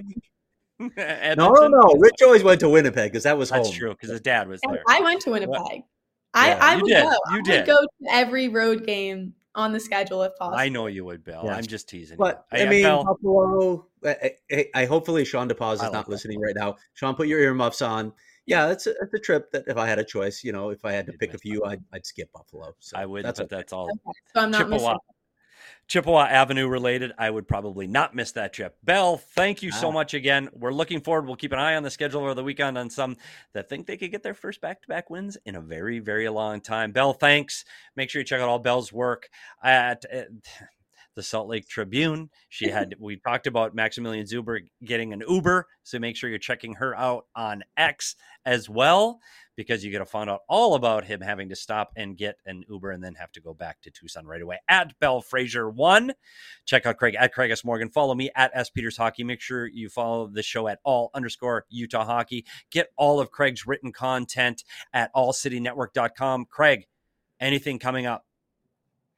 No. Rich always went to Winnipeg because that was home. That's true, because his dad was there. I went to Winnipeg. I would go. I would go to every road game on the schedule if possible. I know you would, Bill. Yeah. I'm just teasing. But you. Buffalo. I hopefully Sean DePaz is not listening right now. Sean, put your earmuffs on. Yeah, it's a trip that if I had a choice, if I had to pick a few, I'd skip Buffalo. So I would, but that's all. Okay. So I'm not missing. Chippewa Avenue related, I would probably not miss that trip. Bell, thank you so much again. We're looking forward. We'll keep an eye on the schedule over the weekend on some that think they could get their first back-to-back wins in a very, very long time. Bell, thanks. Make sure you check out all Bell's work at the Salt Lake Tribune. We talked about Maximilian Zuber getting an Uber, so make sure you're checking her out on X as well, because you get to find out all about him having to stop and get an Uber and then have to go back to Tucson right away. At Bell Fraser 1. Check out Craig at Craig S. Morgan. Follow me at S. Peters Hockey. Make sure you follow the show at all_Utah Hockey. Get all of Craig's written content at allcitynetwork.com. Craig, anything coming up?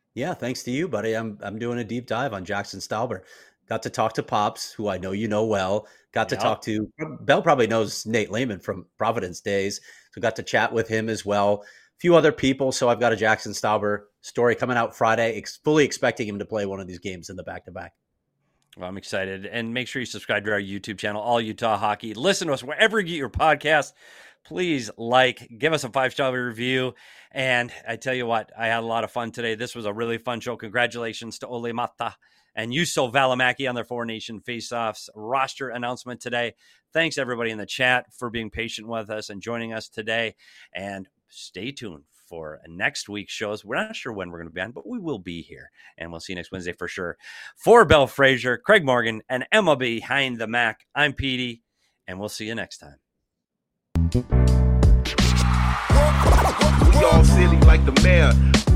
Yeah, thanks to you, buddy. I'm doing a deep dive on Jackson Stauber. Got to talk to Pops, who I know you know well. Got to talk to Bell. Probably knows Nate Lehman from Providence days, so got to chat with him as well. A few other people. So I've got a Jackson Stauber story coming out Friday. Fully expecting him to play one of these games in the back-to-back. Well, I'm excited. And make sure you subscribe to our YouTube channel, All Utah Hockey. Listen to us wherever you get your podcast. Please give us a 5-star review. And I tell you what, I had a lot of fun today. This was a really fun show. Congratulations to Ole Mata and Juuso Välimäki on their Four Nation Faceoffs roster announcement today. Thanks, everybody in the chat, for being patient with us and joining us today. And stay tuned for next week's shows. We're not sure when we're going to be on, but we will be here. And we'll see you next Wednesday for sure. For Bell Fraser, Craig Morgan, and Emma Behind the Mac, I'm Petey, and we'll see you next time. We all silly like the mayor.